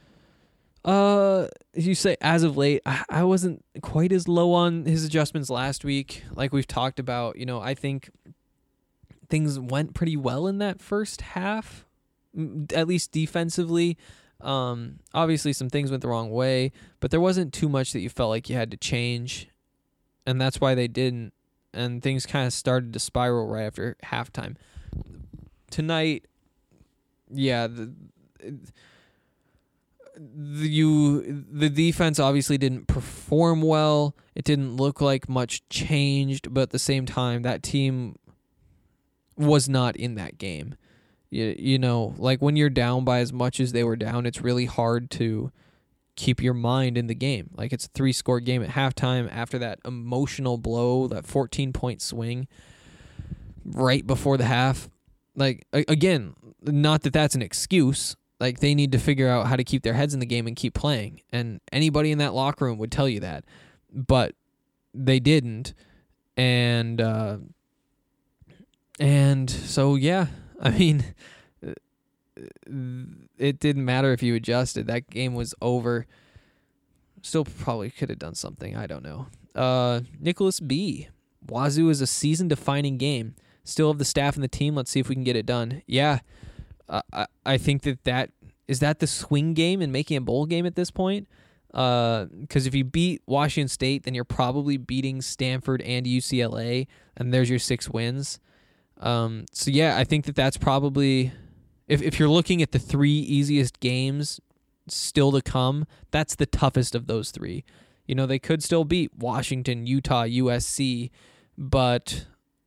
You say as of late, I wasn't quite as low on his adjustments last week. Like we've talked about, you know, I think things went pretty well in that first half, at least defensively. Obviously some things went the wrong way, but there wasn't too much that you felt like you had to change, and that's why they didn't. And things kind of started to spiral right after halftime. Tonight, yeah, the defense obviously didn't perform well. It didn't look like much changed, but at the same time, that team was not in that game. You know, like when you're down by as much as they were down, it's really hard to keep your mind in the game. Like, it's a 3-score game at halftime after that emotional blow, that 14-point swing. right before the half. Like, again, not that that's an excuse. Like, they need to figure out how to keep their heads in the game and keep playing. And anybody in that locker room would tell you that. But they didn't. And so, yeah, I mean, it didn't matter if you adjusted. That game was over. Still probably could have done something. I don't know. Nicholas B. Wazoo is a season-defining game. Still have the staff and the team. Let's see if we can get it done. Yeah, I think that is that the swing game and making a bowl game at this point. Because if you beat Washington State, then you're probably beating Stanford and UCLA, and there's your 6 wins. So yeah, I think that's probably, if you're looking at the 3 easiest games still to come, that's the toughest of those 3. You know, they could still beat Washington, Utah, USC, but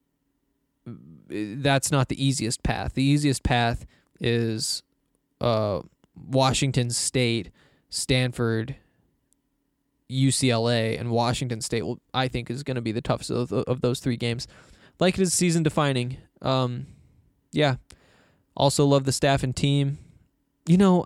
that's not the easiest path. The easiest path is Washington State, Stanford, UCLA, and Washington State, I think, is going to be the toughest of those 3 games. Like it is season defining. Yeah. Also love the staff and team. You know,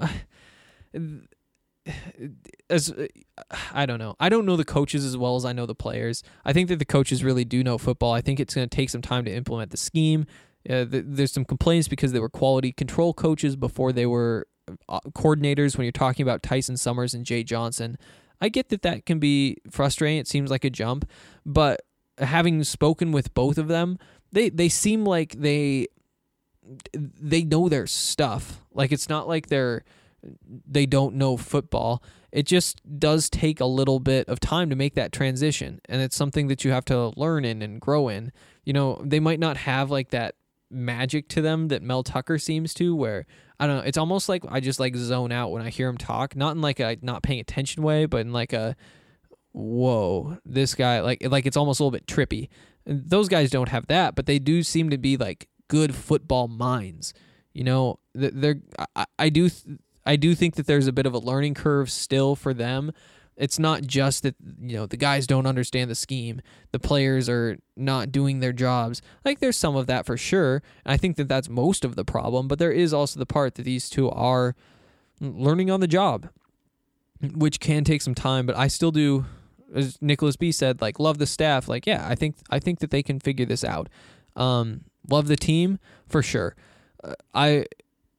I don't know. I don't know the coaches as well as I know the players. I think that the coaches really do know football. I think it's going to take some time to implement the scheme. There's some complaints because they were quality control coaches before they were coordinators when you're talking about Tyson Summers and Jay Johnson. I get that can be frustrating. It seems like a jump. But having spoken with both of them, they seem like they know their stuff. Like, it's not like they don't know football. It just does take a little bit of time to make that transition, and it's something that you have to learn in and grow in. You know, they might not have like that magic to them that Mel Tucker seems to, where, I don't know, it's almost like I just like zone out when I hear him talk, not in like a not paying attention way, but in like a, whoa, this guy, like it's almost a little bit trippy. And those guys don't have that, but they do seem to be like good football minds. You know, I do think that there's a bit of a learning curve still for them. It's not just that, you know, the guys don't understand the scheme. The players are not doing their jobs. Like, there's some of that for sure. And I think that that's most of the problem. But there is also the part that these two are learning on the job, which can take some time. But I still do, as Nicholas B. said, like, love the staff. Like, yeah, I think that they can figure this out. Love the team for sure. I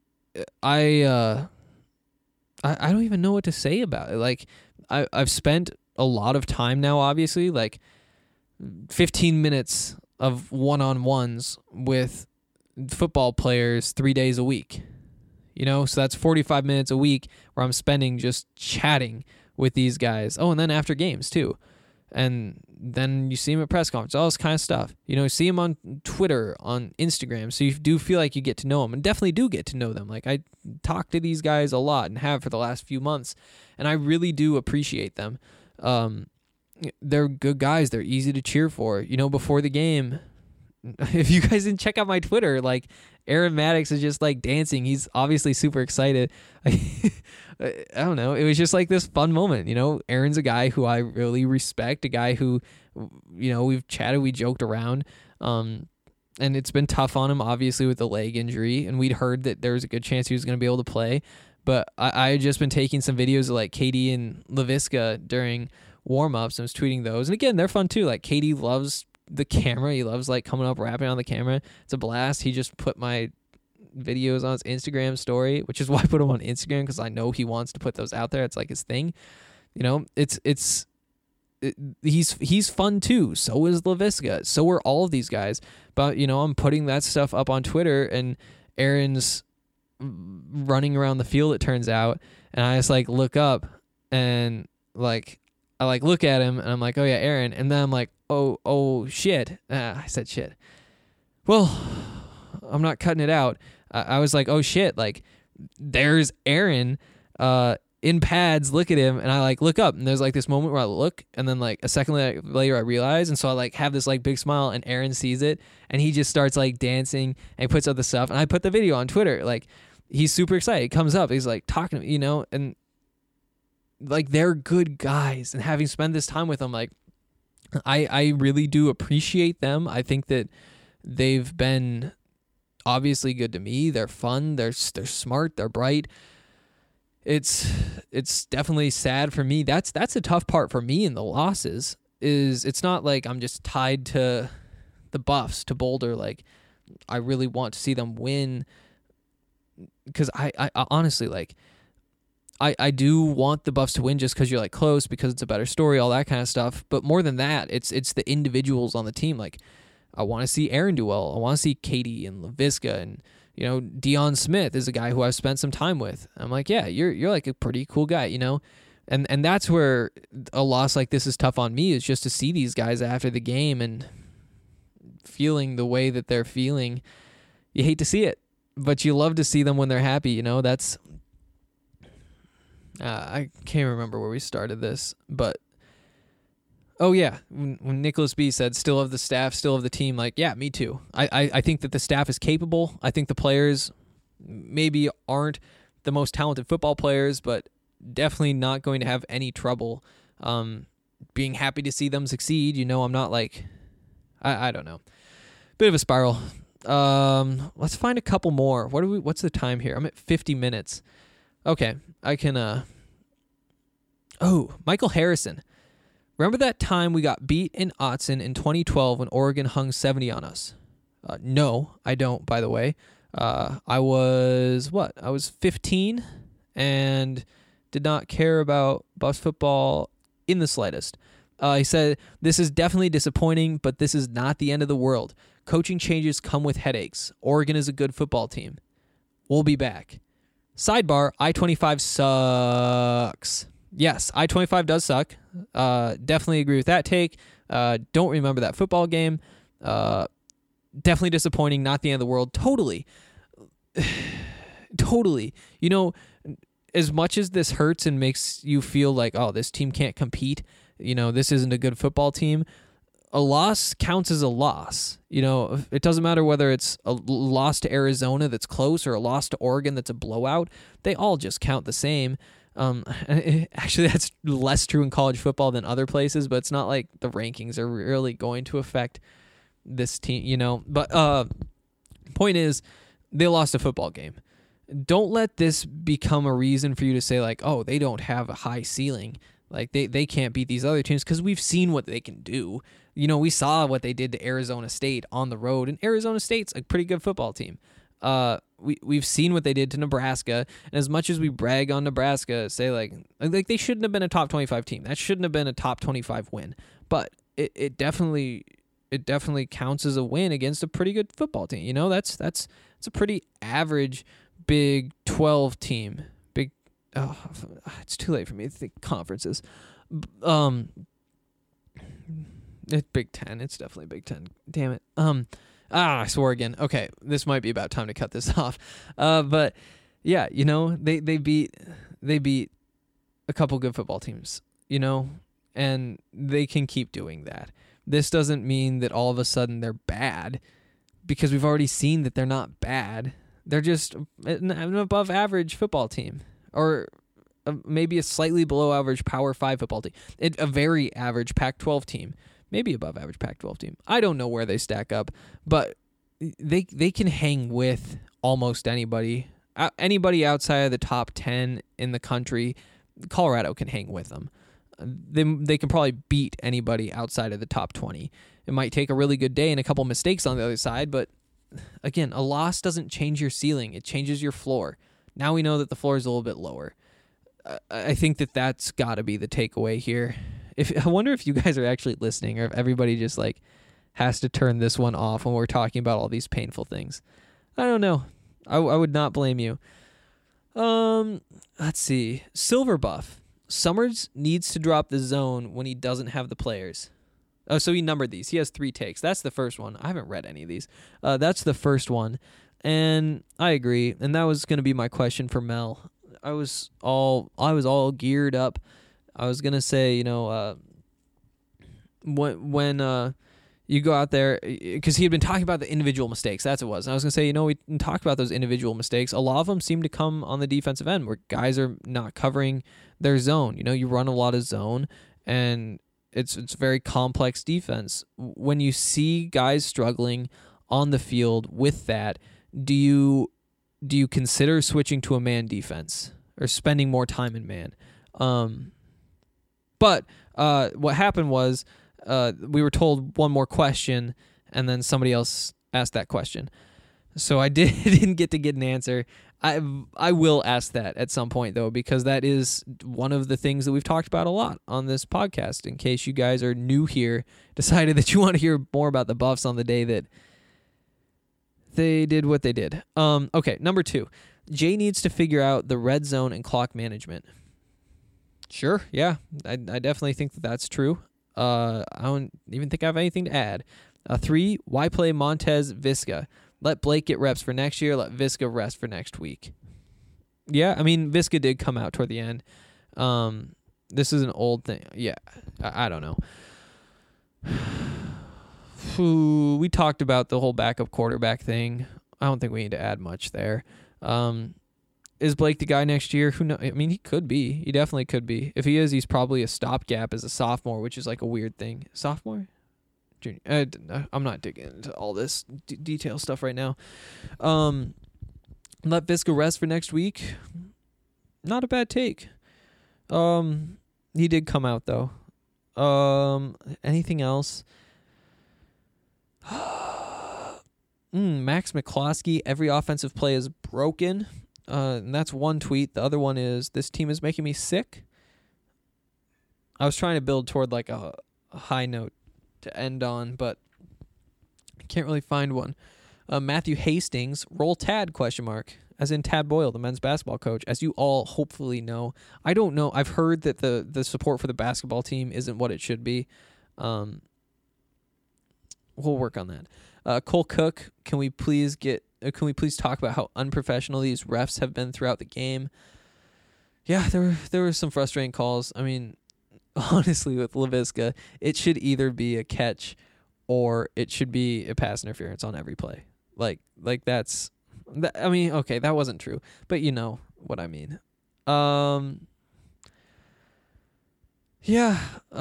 don't even know what to say about it. Like, I've spent a lot of time now, obviously, like 15 minutes of one-on-ones with football players 3 days a week. You know, so that's 45 minutes a week where I'm spending just chatting with these guys. Oh, and then after games too. And then you see them at press conference, all this kind of stuff. You know, see them on Twitter, on Instagram. So you do feel like you get to know them, and definitely do get to know them. Like, I talk to these guys a lot and have for the last few months, and I really do appreciate them. They're good guys. They're easy to cheer for. You know, before the game, if you guys didn't check out my Twitter, like, Aaron Maddox is just like dancing. He's obviously super excited. I don't know. It was just like this fun moment. You know, Aaron's a guy who I really respect, a guy who, you know, we've chatted, we joked around. And it's been tough on him, obviously, with the leg injury. And we'd heard that there was a good chance he was going to be able to play. But I had just been taking some videos of like KD and LaVisca during warm-ups and was tweeting those. And again, they're fun too. Like, KD loves the camera. He loves like coming up, rapping on the camera. It's a blast. He just put my videos on his Instagram story, which is why I put him on Instagram, because I know he wants to put those out there. It's like his thing. You know, he's fun too. So is LaVisca. So are all of these guys. But, you know, I'm putting that stuff up on Twitter, and Aaron's running around the field, it turns out, and I just like look up and like I like look at him and I'm like, oh yeah, Aaron, and then I'm like, oh shit. I said shit. Well, I'm not cutting it out. I was like, oh shit, like there's Aaron in pads, look at him, and I like look up, and there's like this moment where I look, and then like a second later I realize, and so I like have this like big smile, and Aaron sees it, and he just starts like dancing, and he puts up the stuff, and I put the video on Twitter. Like, he's super excited. He comes up, he's like talking to me, you know, and like they're good guys, and having spent this time with them, like I really do appreciate them. I think that They've been obviously good to me. They're fun. They're smart. They're bright. It's definitely sad for me. That's the tough part for me in the losses. Is it's not like I'm just tied to the Buffs, to Boulder. Like, I really want to see them win, because I honestly, like, I do want the Buffs to win just because you're like close, because it's a better story, all that kind of stuff. But more than that, it's the individuals on the team. Like, I want to see Aaron do well. I want to see Katie and LaVisca, and Deion Smith is a guy who I've spent some time with. I'm like, yeah, you're like a pretty cool guy, And that's where a loss like this is tough on me, is just to see these guys after the game and feeling the way that they're feeling. You hate to see it, but you love to see them when they're happy. That's I can't remember where we started this, but oh yeah, when Nicholas B said still of the staff, still of the team, like, yeah, me too. I think that the staff is capable. I think the players maybe aren't the most talented football players, but definitely not going to have any trouble being happy to see them succeed. I'm not like, I don't know. Bit of a spiral. Let's find a couple more. What's the time here? I'm at 50 minutes. Okay, I can Michael Harrison. Remember that time we got beat in Autzen in 2012 when Oregon hung 70 on us? No, I don't, by the way. I was 15 and did not care about Buffs football in the slightest. He said, "This is definitely disappointing, but this is not the end of the world. Coaching changes come with headaches. Oregon is a good football team. We'll be back." Sidebar, I-25 sucks. Yes, I-25 does suck. Definitely agree with that take. Don't remember that football game. Definitely disappointing, not the end of the world. Totally. Totally. As much as this hurts and makes you feel like, oh, this team can't compete, this isn't a good football team, a loss counts as a loss. It doesn't matter whether it's a loss to Arizona that's close or a loss to Oregon that's a blowout. They all just count the same. Actually, that's less true in college football than other places, but it's not like the rankings are really going to affect this team, But point is, they lost a football game. Don't let this become a reason for you to say, like, oh, they don't have a high ceiling. Like, they can't beat these other teams, because we've seen what they can do. We saw what they did to Arizona State on the road, and Arizona State's a pretty good football team. We've seen what they did to Nebraska, and as much as we brag on Nebraska, say like they shouldn't have been a top 25 team. That shouldn't have been a top 25 win. But it definitely counts as a win against a pretty good football team. That's a pretty average Big 12 team. It's too late for me to think conferences. It's Big 10. It's definitely Big 10. Damn it. I swore again. Okay, this might be about time to cut this off. But yeah, they beat a couple good football teams, and they can keep doing that. This doesn't mean that all of a sudden they're bad, because we've already seen that they're not bad. They're just an above average football team, or maybe a slightly below average Power 5 football team. A very average Pac-12 team. Maybe above average Pac-12 team. I don't know where they stack up, but they can hang with almost anybody. Anybody outside of the top 10 in the country, Colorado can hang with them. They can probably beat anybody outside of the top 20. It might take a really good day and a couple mistakes on the other side, but again, a loss doesn't change your ceiling. It changes your floor. Now we know that the floor is a little bit lower. I think that's got to be the takeaway here. I wonder if you guys are actually listening, or if everybody just like has to turn this one off when we're talking about all these painful things. I don't know. I would not blame you. Let's see. Silver Buff. Summers needs to drop the zone when he doesn't have the players. Oh, so he numbered these. He has 3 takes. That's the first one. I haven't read any of these. That's the first one. And I agree. And that was going to be my question for Mel. I was all geared up. I was going to say, when you go out there, because he had been talking about the individual mistakes. That's what it was. And I was going to say, we talked about those individual mistakes. A lot of them seem to come on the defensive end, where guys are not covering their zone. You run a lot of zone, and it's very complex defense. When you see guys struggling on the field with that, do you consider switching to a man defense or spending more time in man? But what happened was we were told one more question, and then somebody else asked that question. So I didn't get to get an answer. I will ask that at some point, though, because that is one of the things that we've talked about a lot on this podcast. In case you guys are new here, decided that you want to hear more about the Buffs on the day that they did what they did. Okay, number 2. Jay needs to figure out the red zone and clock management. Sure, yeah, I definitely think that that's true. I don't even think I have anything to add. 3, why play Montez Visca? Let Blake get reps for next year. Let Visca rest for next week. Yeah, I mean, Visca did come out toward the end. This is an old thing. Yeah, I don't know. We talked about the whole backup quarterback thing. I don't think we need to add much there. Is Blake the guy next year? Who knows? I mean, he could be. He definitely could be. If he is, he's probably a stopgap as a sophomore, which is like a weird thing. Sophomore? Junior. I'm not digging into all this detail stuff right now. Let Visca rest for next week. Not a bad take. He did come out though. Anything else? Max McCloskey, every offensive play is broken. And that's one tweet. The other one is, this team is making me sick. I was trying to build toward like a high note to end on, but I can't really find one. Matthew Hastings, roll Tad, ? As in Tad Boyle, the men's basketball coach. As you all hopefully know. I don't know. I've heard that the support for the basketball team isn't what it should be. We'll work on that. Cole Cook, can we please talk about how unprofessional these refs have been throughout the game? Yeah, there were some frustrating calls. I mean, honestly, with Laviska, it should either be a catch or it should be a pass interference on every play. Like that's, I mean, okay, that wasn't true, but you know what I mean. Yeah.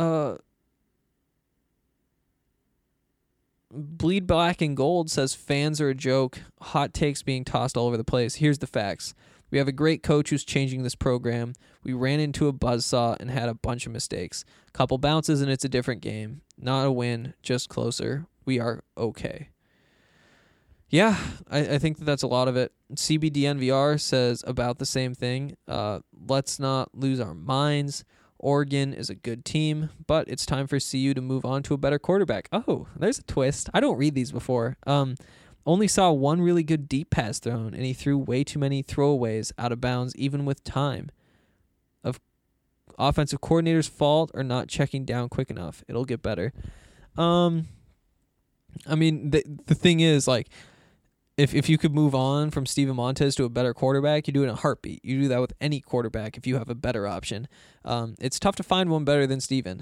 Bleed Black and Gold says fans are a joke. Hot takes being tossed all over the place. Here's the facts. We have a great coach who's changing this program. We ran into a buzzsaw and had a bunch of mistakes. Couple bounces and it's a different game. Not a win, just closer. We are okay. Yeah, I think that's a lot of it. CBDNVR says about the same thing. Let's not lose our minds. Oregon is a good team, but it's time for CU to move on to a better quarterback. Oh, there's a twist. I don't read these before. Only saw one really good deep pass thrown, and he threw way too many throwaways out of bounds, even with time. Of offensive coordinator's fault or not checking down quick enough. It'll get better. I mean, the thing is, like, if you could move on from Steven Montez to a better quarterback, you do it in a heartbeat. You do that with any quarterback if you have a better option. It's tough to find one better than Steven.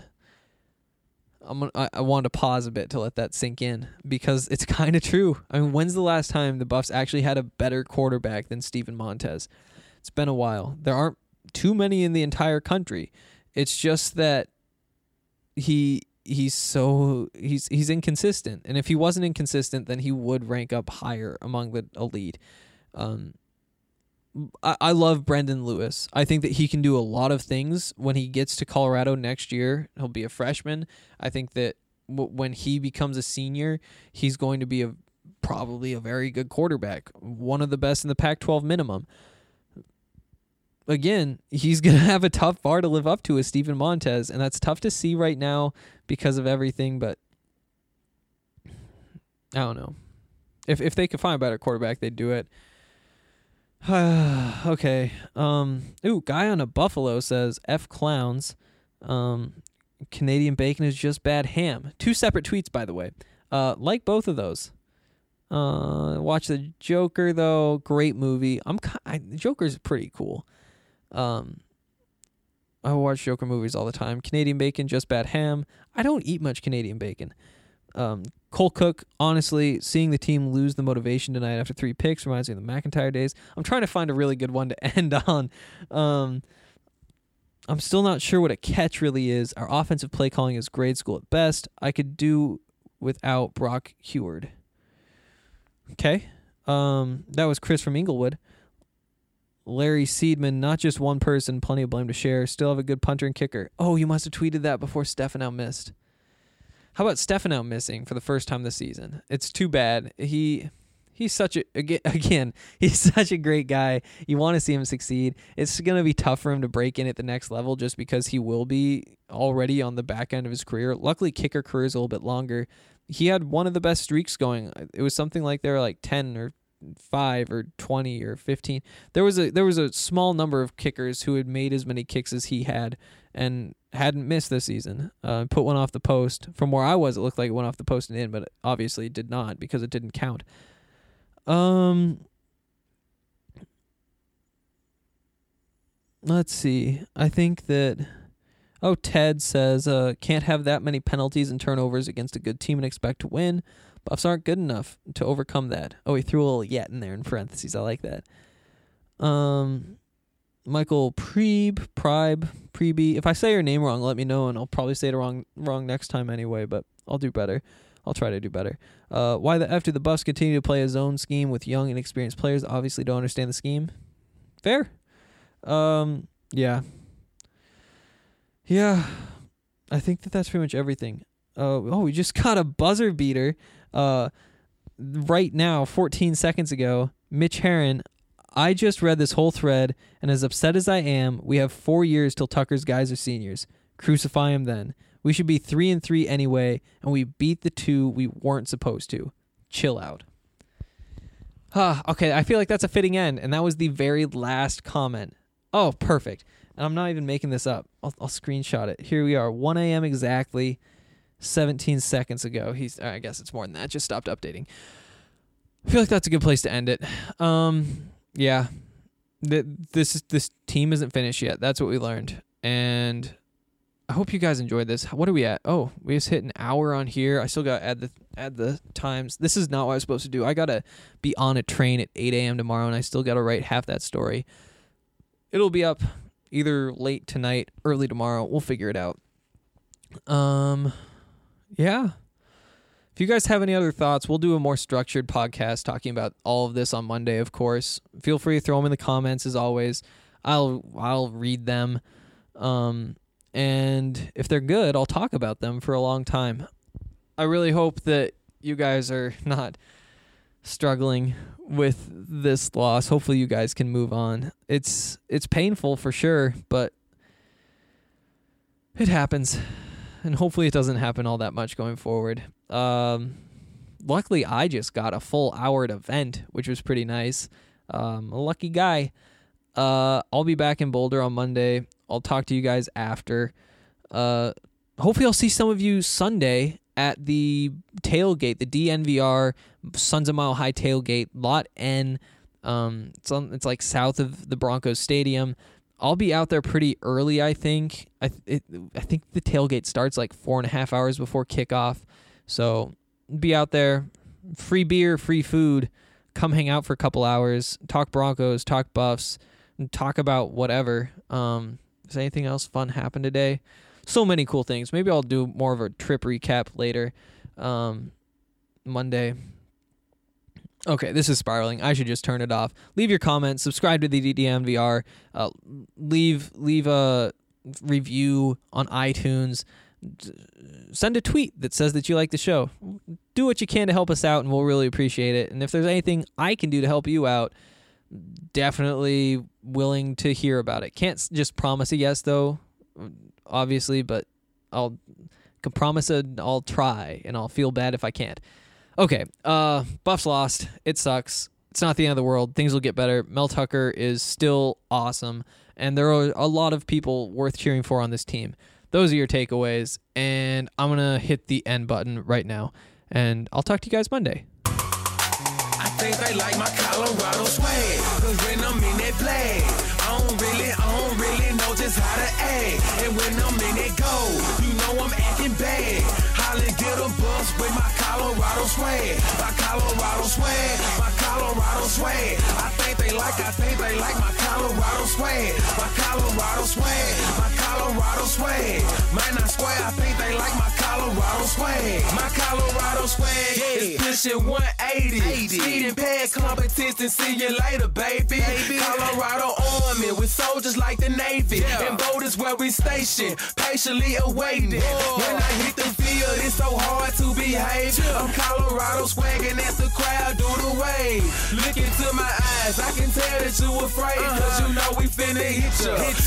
I wanted to pause a bit to let that sink in because it's kind of true. I mean, when's the last time the Buffs actually had a better quarterback than Steven Montez? It's been a while. There aren't too many in the entire country. It's just that he's inconsistent, and if he wasn't inconsistent, then he would rank up higher among the elite. I love Brendan Lewis. I think that he can do a lot of things when he gets to Colorado next year. He'll be a freshman. I think that when he becomes a senior, he's going to be probably a very good quarterback, one of the best in the Pac-12 minimum. Again, he's going to have a tough bar to live up to as Steven Montez, and that's tough to see right now because of everything, but I don't know. If they could find a better quarterback, they'd do it. Okay. Guy on a Buffalo says, F clowns. Canadian bacon is just bad ham. 2 separate tweets, by the way. Like both of those. Watch the Joker, though. Great movie. Joker's pretty cool. I watch Joker movies all the time. Canadian bacon, just bad ham. I don't eat much Canadian bacon. Cole Cook, honestly, seeing the team lose the motivation tonight after 3 picks reminds me of the McIntyre days. I'm trying to find a really good one to end on. I'm still not sure what a catch really is. Our offensive play calling is grade school at best. I could do without Brock Heward. Okay. That was Chris from Inglewood. Larry Seedman, not just one person, plenty of blame to share. Still have a good punter and kicker. Oh, you must have tweeted that before Stefano missed. How about Stefano missing for the first time this season? It's too bad. He's such he's such a great guy. You want to see him succeed. It's going to be tough for him to break in at the next level just because he will be already on the back end of his career. Luckily, kicker career is a little bit longer. He had one of the best streaks going. It was something like they were like 10 or 5 or 20 or 15. There was a small number of kickers who had made as many kicks as he had and hadn't missed this season. Put one off the post. From where I was, it looked like it went off the post and in, but obviously it did not because it didn't count. Let's see. I think that Ted says can't have that many penalties and turnovers against a good team and expect to win. Buffs aren't good enough to overcome that. Oh, he threw a little yet in there in parentheses. I like that. Michael Prebe. If I say your name wrong, let me know, and I'll probably say it wrong next time anyway, but I'll do better. I'll try to do better. Why the F do the Buffs continue to play a zone scheme with young and experienced players that obviously don't understand the scheme? Fair. Yeah. Yeah. I think that's pretty much everything. We just got a buzzer beater. Right now, 14 seconds ago, Mitch Herron. I just read this whole thread, and as upset as I am, we have 4 years till Tucker's guys are seniors. Crucify him then. We should be 3-3 anyway, and we beat the 2 we weren't supposed to. Chill out. Okay, I feel like that's a fitting end, and that was the very last comment. Oh, perfect. And I'm not even making this up. I'll screenshot it. Here we are, 1 a.m. exactly, 17 seconds ago. I guess it's more than that. Just stopped updating. I feel like that's a good place to end it. Yeah. This team isn't finished yet. That's what we learned. And I hope you guys enjoyed this. What are we at? Oh, we just hit an hour on here. I still got to add the times. This is not what I was supposed to do. I got to be on a train at 8 a.m. tomorrow, and I still got to write half that story. It'll be up either late tonight, early tomorrow. We'll figure it out. Yeah. If you guys have any other thoughts, we'll do a more structured podcast talking about all of this on Monday, of course. Feel free to throw them in the comments, as always. I'll read them. And if they're good, I'll talk about them for a long time. I really hope that you guys are not struggling with this loss. Hopefully you guys can move on. It's painful for sure, but it happens. And hopefully it doesn't happen all that much going forward. Luckily, I just got a full hour at event, which was pretty nice. A lucky guy. I'll be back in Boulder on Monday. I'll talk to you guys after. Hopefully I'll see some of you Sunday at the tailgate, the DNVR Sons of Mile High tailgate, Lot N. It's like south of the Broncos Stadium. I'll be out there pretty early, I think. I think the tailgate starts like 4.5 hours before kickoff. So be out there. Free beer, free food. Come hang out for a couple hours. Talk Broncos, talk Buffs, and talk about whatever. Does anything else fun happen today? So many cool things. Maybe I'll do more of a trip recap later. Monday. Okay, this is spiraling. I should just turn it off. Leave your comments. Subscribe to the DNVR. Leave a review on iTunes. Send a tweet that says that you like the show. Do what you can to help us out, and we'll really appreciate it. And if there's anything I can do to help you out, definitely willing to hear about it. Can't just promise a yes, though, obviously, but I'll promise I'll try, and I'll feel bad if I can't. Okay, Buffs lost. It sucks. It's not the end of the world. Things will get better. Mel Tucker is still awesome, and there are a lot of people worth cheering for on this team. Those are your takeaways, and I'm going to hit the end button right now, and I'll talk to you guys Monday. I think they like my Colorado swag, cause when I'm in that flag, I don't really know just how to act. And when I'm in that goal, you know I'm acting bad. Holly get a bus with my Colorado swag. My Colorado swag, my Colorado swag. I think they like my Colorado swag. My Colorado swag, my Colorado swag. Man, I swear I think they like my Colorado Colorado swag. My Colorado swag is pushing 180. Speeding past competition, see you later, baby. Colorado Army with soldiers like the Navy. And boat is where we station, patiently awaiting. When I hit the field, it's so hard to behave. I'm Colorado swagging as the crowd do the wave. Look into my eyes, I can tell that you afraid. Cause you know we finna hit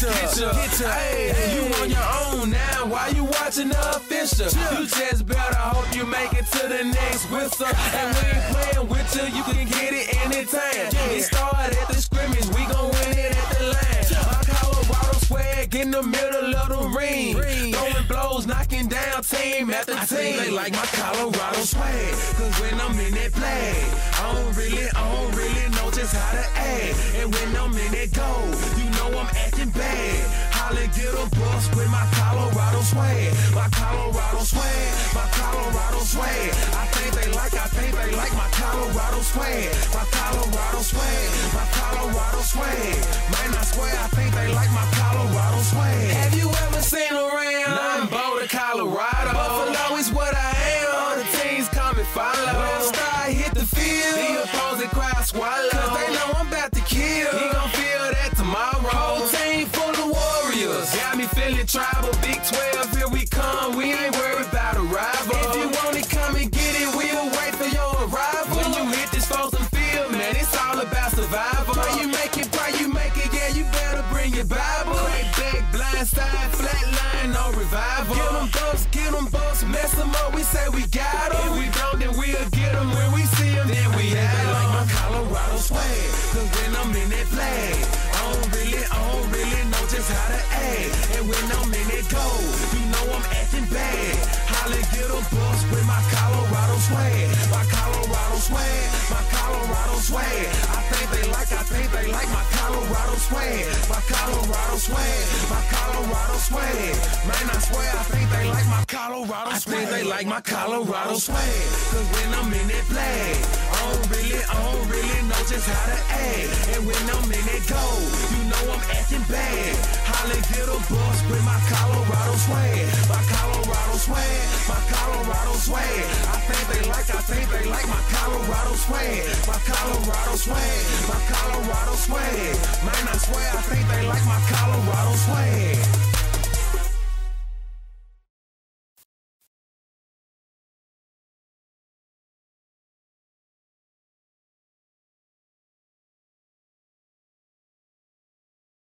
ya. Hey, you on your own now, why you watching the official? You just better hope you make it to the next whistle. And we ain't playing with you can get it anytime. It started at the scrimmage, we gon' win it at the line. My Colorado swag in the middle of the ring. Throwing blows, knocking down team after team. I think they like my Colorado swag, cause when I'm in that play, I don't really know just how to act. And when I'm in that goal, you know I'm acting bad. Holla, get a bus with my Colorado swag. My Colorado swag, my Colorado swag. I think they like my Colorado swag. My Colorado swag, my Colorado swag. Man, I swear, I think they like my Colorado swag. Have you ever seen around? I'm Boulder, Colorado. Buffalo is what I am. All the teams come and follow. When I start hit the field, the opposing crowd swallow. Cause they know I'm about to kill. He gon' feel that tomorrow. Whole team full of warriors. Got me feeling tribal. Big 12, here we come. We ain't worried about a rival. If you want it, come and get it. We'll wait for your arrival. When you hit this frozen field, man, it's all about survival. Pray you make it, yeah, you better bring your Bible. Crack back, blind side, flat line, no revival. Get them bucks, mess them up, we say we got them. If we don't, then we'll get them. When we see them, then we have them. Like my Colorado swag, cause when I'm in that flag, I don't really know just how to act. And when I'm in that goal, you know I'm acting bad. Holla, get a bus with my Colorado swag. My Colorado swag, my Colorado swag. I think they like my Colorado swag. My Colorado swag, my Colorado swag. Man, I swear, I think they like my Colorado swag. I think they like my Colorado swag. Cause when I'm in that flag, I don't really know just how to act. And when I'm in that goal, you know I'm acting bad. Holla, get a bus with my Colorado swag. My Colorado swag, my Colorado swag. I think they like my Colorado swag. My Colorado swag, my Colorado swag. Man, I swear, I think they like my Colorado swag.